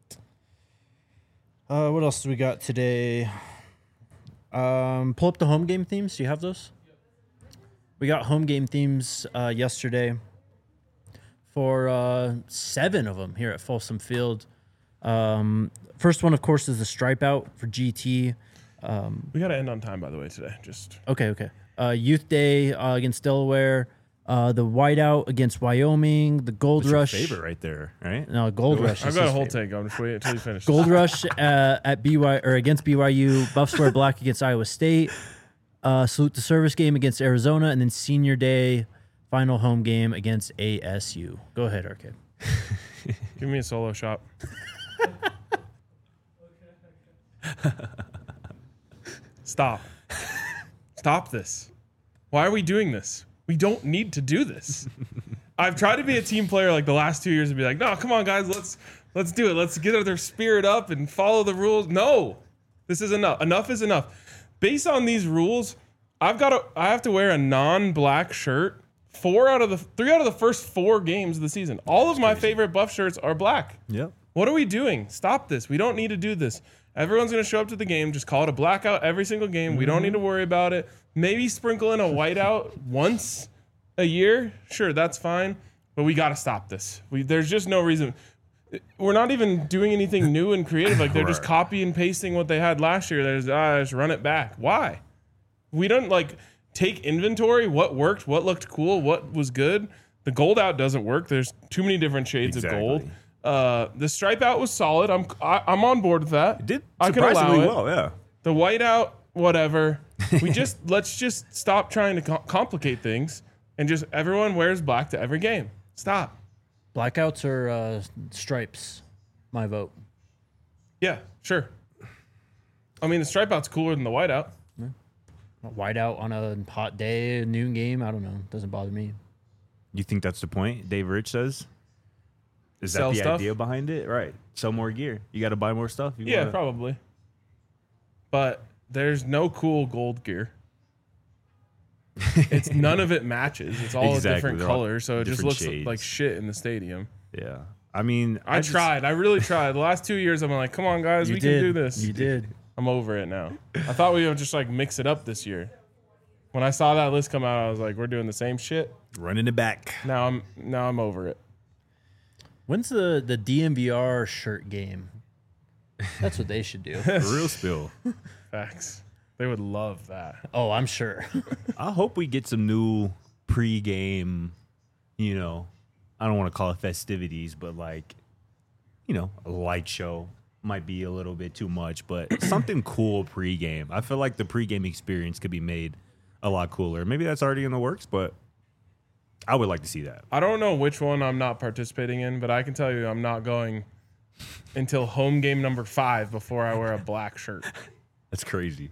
Uh, what else do we got today? Um, pull up the home game themes. Do you have those? We got home game themes uh, yesterday for uh, seven of them here at Folsom Field. Um, first one, of course, is the stripe out for G T. Um, We got to end on time, by the way, today. Just okay, okay. Uh, Youth Day uh, against Delaware. Uh, the whiteout against Wyoming. The Gold That's your Rush. favorite right there, right? No, Gold Rush. I've is got a his whole favorite. take. I'm just waiting until you finish. Gold Rush uh, at B Y or against B Y U. Buffs wear black against Iowa State. Uh, salute the service game against Arizona, and then Senior Day final home game against A S U. Go ahead, Arcade. Give me a solo shot. Stop. Stop this. Why are we doing this? We don't need to do this. I've tried to be a team player like the last two years and be like, no, come on, guys, let's let's do it. Let's get their spirit up and follow the rules. No, this is enough. Enough is enough. Based on these rules, I've got to I have to wear a non-black shirt four out of the three out of the first four games of the season. All of my favorite Buff shirts are black. Yep. What are we doing? Stop this. We don't need to do this. Everyone's going to show up to the game. Just call it a blackout every single game. We don't need to worry about it. Maybe sprinkle in a whiteout once a year. Sure, that's fine. But we got to stop this. We, there's just no reason. We're not even doing anything new and creative. Like they're just Right. copy and pasting what they had last year. There's ah, just run it back. Why? We don't like take inventory. What worked? What looked cool? What was good? The gold out doesn't work. There's too many different shades Exactly. of gold. Uh, the stripe out was solid. I'm I, I'm on board with that. It did I can allow surprisingly it. well, yeah. The white out, whatever. We just let's just stop trying to co- complicate things and just everyone wears black to every game. Stop. Blackouts or uh, stripes? My vote. Yeah, sure. I mean, the stripe out's cooler than the white out. A whiteout on a hot day, a noon game. I don't know. Doesn't bother me. You think that's the point? Dave Rich says. Is that Sell the stuff? idea behind it? Right. Sell more gear. You got to buy more stuff. You Yeah, wanna- probably. But there's no cool gold gear. It's none of it matches. It's all Exactly, a different they're all color, so it just different looks shades. like shit in the stadium. Yeah. I mean, I, just- tried. I really tried. The last two years, I'm like, come on, guys, You we did. can do this. You did. I'm over it now. I thought we would just like mix it up this year. When I saw that list come out, I was like, we're doing the same shit. running it back. Now I'm now I'm over it. When's the the D M V R shirt game? That's what they should do. Real spill. Facts. They would love that. Oh, I'm sure. I hope we get some new pre-game, you know, I don't want to call it festivities, but like, you know, a light show might be a little bit too much, but something cool pre-game. I feel like the pre-game experience could be made a lot cooler. Maybe that's already in the works, but I would like to see that. I don't know which one I'm not participating in, but I can tell you I'm not going until home game number five before I wear a black shirt. That's crazy.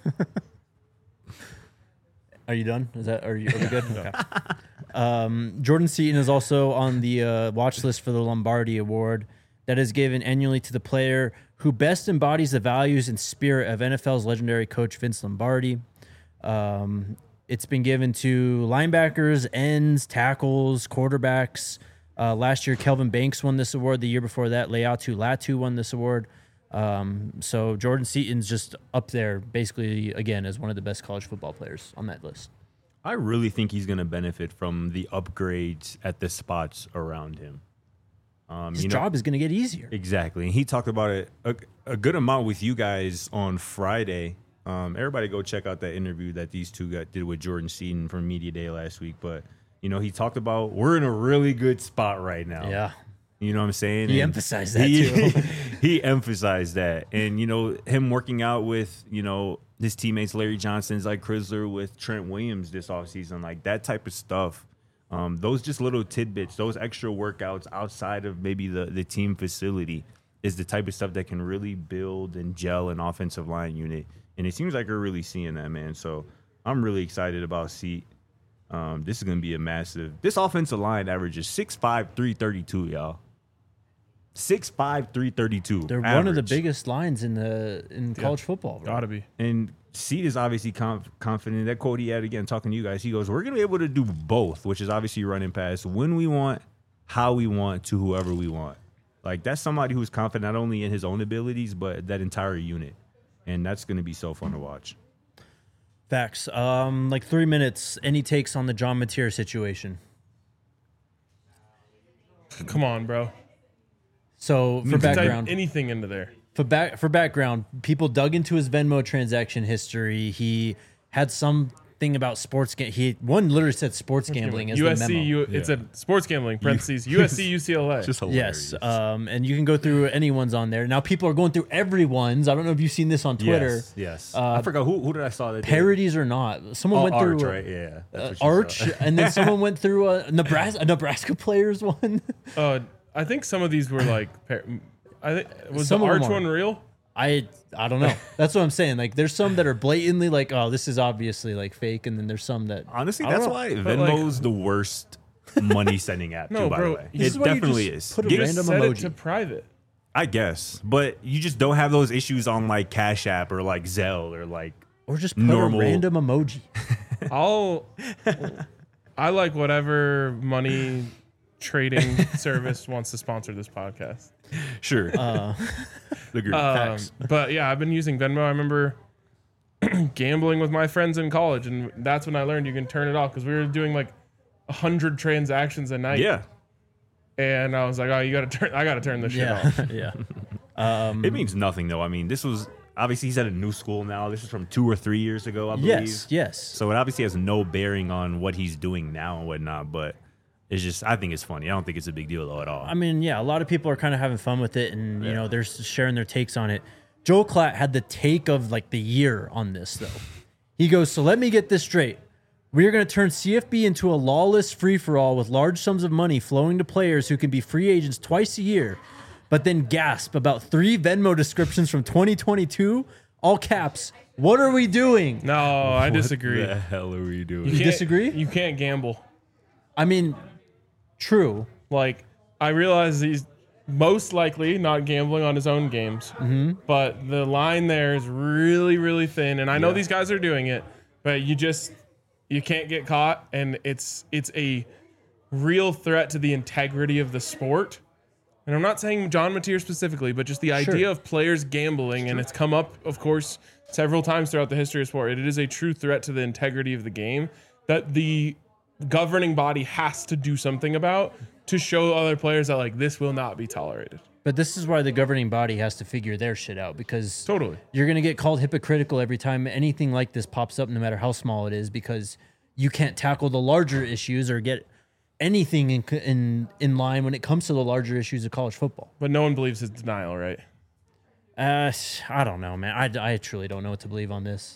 Are you done? Is that are you, are we good? Okay. Um, Jordan Seaton is also on the uh, watch list for the Lombardi Award that is given annually to the player who best embodies the values and spirit of N F L's legendary coach Vince Lombardi. Um, it's been given to linebackers, ends, tackles, quarterbacks. Uh, last year, Kelvin Banks won this award. The year before that, Leatu Latu won this award. Um, so Jordan Seaton's just up there, basically, again, as one of the best college football players on that list. I really think he's going to benefit from the upgrades at the spots around him. Um, His you know, job is going to get easier. Exactly. And he talked about it a, a good amount with you guys on Friday. Um, everybody go check out that interview that these two got, did with Jordan Seaton from Media Day last week. But, you know, he talked about we're in a really good spot right now. Yeah. You know what I'm saying? He And emphasized that, he, too. he emphasized that. And, you know, him working out with, you know, his teammates, Larry Johnson's like Chrysler with Trent Williams this offseason, like that type of stuff. Um, those just little tidbits, those extra workouts outside of maybe the, the team facility is the type of stuff that can really build and gel an offensive line unit. And it seems like we're really seeing that, man. So I'm really excited about Seat. Um, this is going to be a massive – this offensive line averages six five, three thirty-two, y'all. six five, three thirty-two. They're average. one of the biggest lines in the in college football. Bro. Gotta be. And Seed is obviously conf- confident. That quote he had again, talking to you guys, he goes, we're going to be able to do both, which is obviously running pass when we want, how we want, to whoever we want. Like, that's somebody who's confident not only in his own abilities, but that entire unit. And that's going to be so fun to watch. Facts. Um, like three minutes. Any takes on the John Mateer situation? Come on, bro. So, for Type background, anything into there. For back for background, people dug into his Venmo transaction history. He had something about sports. Ga- he one literally said sports gambling as U S C, the memo. U, it said sports gambling. Parentheses. U S C, U C L A. Just hilarious. Yes, um, and you can go through anyone's on there. Now people are going through everyone's. I don't know if you've seen this on Twitter. Yes. yes. Uh, I forgot who who did I saw that. Parodies or not, someone Oh, went Arch, through right? Yeah. That's uh, what you Arch, saw. and then someone went through a Nebraska, a Nebraska players one. Uh, I think some of these were like. par- I think was Some the of them Arch are. one real? I I don't know. That's what I'm saying. Like, there's some that are blatantly like, oh, this is obviously like fake, and then there's some that Honestly, I don't that's know. why But, like- Venmo's the worst money sending app, No, too, by bro, the way. this It is why you definitely just is. put a Get- random Set emoji. it to private. I guess. But you just don't have those issues on like Cash App or like Zelle or like or just put normal a random emoji. I'll. I like whatever money trading service wants to sponsor this podcast. Sure. Uh, Agreed. Um, Facts. but yeah, I've been using Venmo. I remember gambling with my friends in college, and that's when I learned you can turn it off because we were doing like a hundred transactions a night. Yeah. And I was like, oh, you gotta turn. I gotta turn this shit yeah, off. yeah. Um, It means nothing though. I mean, this was obviously he's at a new school now. This is from two or three years ago, I believe. yes, yes. So it obviously has no bearing on what he's doing now and whatnot. But it's just, I think it's funny. I don't think it's a big deal though at all. I mean, yeah, a lot of people are kind of having fun with it, and you know, they're sharing their takes on it. Joel Klatt had the take of like the year on this, though. He goes, "So let me get this straight. We are going to turn C F B into a lawless free-for-all with large sums of money flowing to players who can be free agents twice a year, but then gasp about three Venmo descriptions from twenty twenty-two, all caps. What are we doing?" No, I disagree. What the hell are we doing? You can't- disagree? You can't gamble. I mean, true. Like, I realize he's most likely not gambling on his own games, Mm-hmm. but the line there is really, really thin. And I know Yeah. these guys are doing it, but you just you can't get caught, and it's it's a real threat to the integrity of the sport. And I'm not saying John Mateer specifically, but just the idea Sure. of players gambling, and it's come up, of course, several times throughout the history of sport. It is a true threat to the integrity of the game that the governing body has to do something about to show other players that like this will not be tolerated. But this is why the governing body has to figure their shit out, because Totally. you're going to get called hypocritical every time anything like this pops up, no matter how small it is, because you can't tackle the larger issues or get anything in in in line when it comes to the larger issues of college football. But no one believes his denial, right? Uh, I don't know, man. I, I truly don't know what to believe on this.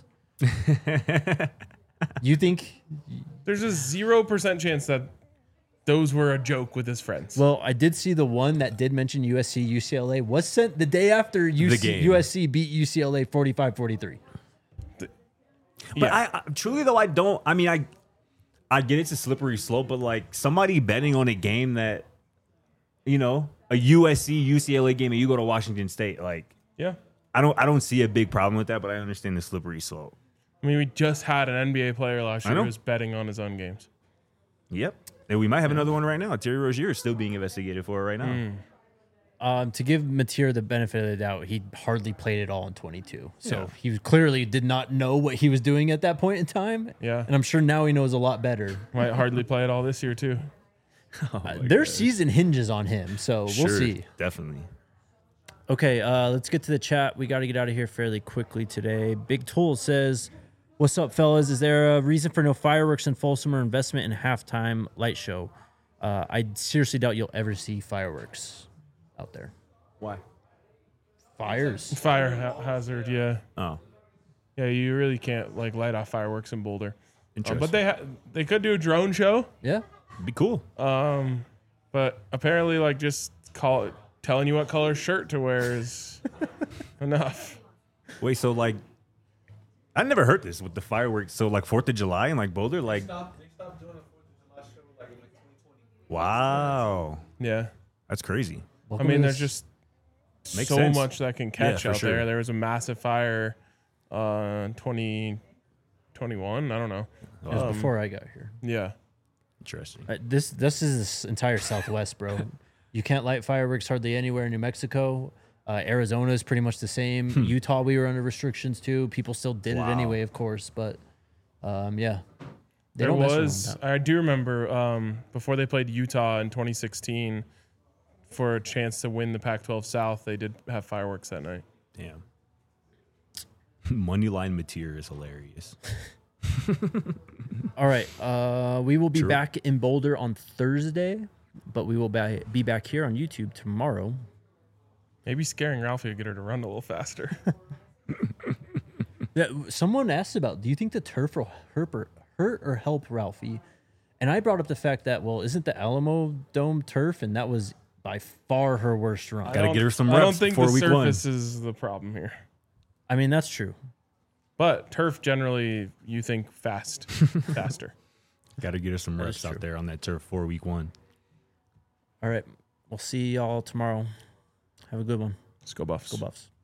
You think? There's a zero percent chance that those were a joke with his friends. Well, I did see the one that did mention U S C, U C L A was sent the day after U C, game. U S C beat U C L A forty-five forty-three. But Yeah. I, I truly though, I don't. I mean, I I get it's a slippery slope, but like somebody betting on a game that, you know, a U S C U C L A game, and you go to Washington State, like yeah. I don't I don't see a big problem with that, but I understand the slippery slope. I mean, we just had an N B A player last I year know. who was betting on his own games. Yep, and we might have another one right now. Terry Rozier is still being investigated for it right now. Mm. Um, to give Mateer the benefit of the doubt, he hardly played at all in twenty-two. So Yeah. he clearly did not know what he was doing at that point in time. Yeah. And I'm sure now he knows a lot better. Might hardly play it all this year, too. Uh, their season hinges on him, so we'll Sure, see. definitely. Okay, uh, let's get to the chat. We got to get out of here fairly quickly today. Big Tool says, "What's up, fellas? Is there a reason for no fireworks in Folsom or investment in halftime light show? Uh, I seriously doubt you'll ever see fireworks out there. Why? Fires. Fire ha- hazard, yeah. Oh, Yeah, you really can't like light off fireworks in Boulder. Uh, interesting. but they ha- they could do a drone show. Yeah. Be cool. Um, but apparently, like just call it telling you what color shirt to wear is enough. Wait, so like, I never heard this with the fireworks. So like Fourth of July and like Boulder, like, They stopped, they stopped doing a Fourth of July show like in like twenty twenty. wow, Yeah. that's crazy. I mean, there's just Makes so sense. much that can catch for out sure. there. There was a massive fire uh, in twenty twenty-one. I don't know. It was Um, before I got here. Yeah. Interesting. Uh, this this is this entire Southwest, bro. You can't light fireworks hardly anywhere in New Mexico. Uh, Arizona is pretty much the same. Utah, we were under restrictions too. People still did Wow. it anyway, of course, but um, yeah. They There don't mess around with was, that. I do remember um, before they played Utah in twenty sixteen for a chance to win the Pac twelve South, they did have fireworks that night. Damn. Moneyline material is hilarious. All right. Uh, we will be True. back in Boulder on Thursday, but we will ba- be back here on YouTube tomorrow. Maybe scaring Ralphie would get her to run a little faster. Yeah, someone asked about, do you think the turf will hurt or, hurt or help Ralphie? And I brought up the fact that, well, isn't the Alamo Dome turf? And that was by far her worst run. I Gotta don't- get her some I don't reps think before the week one. surface is the problem here. I mean, that's true. But turf generally, you think fast, faster. Got to get her some That reps is out true. there on that turf for week one. All right. We'll see y'all tomorrow. Have a good one. Let's go Buffs. Go Buffs.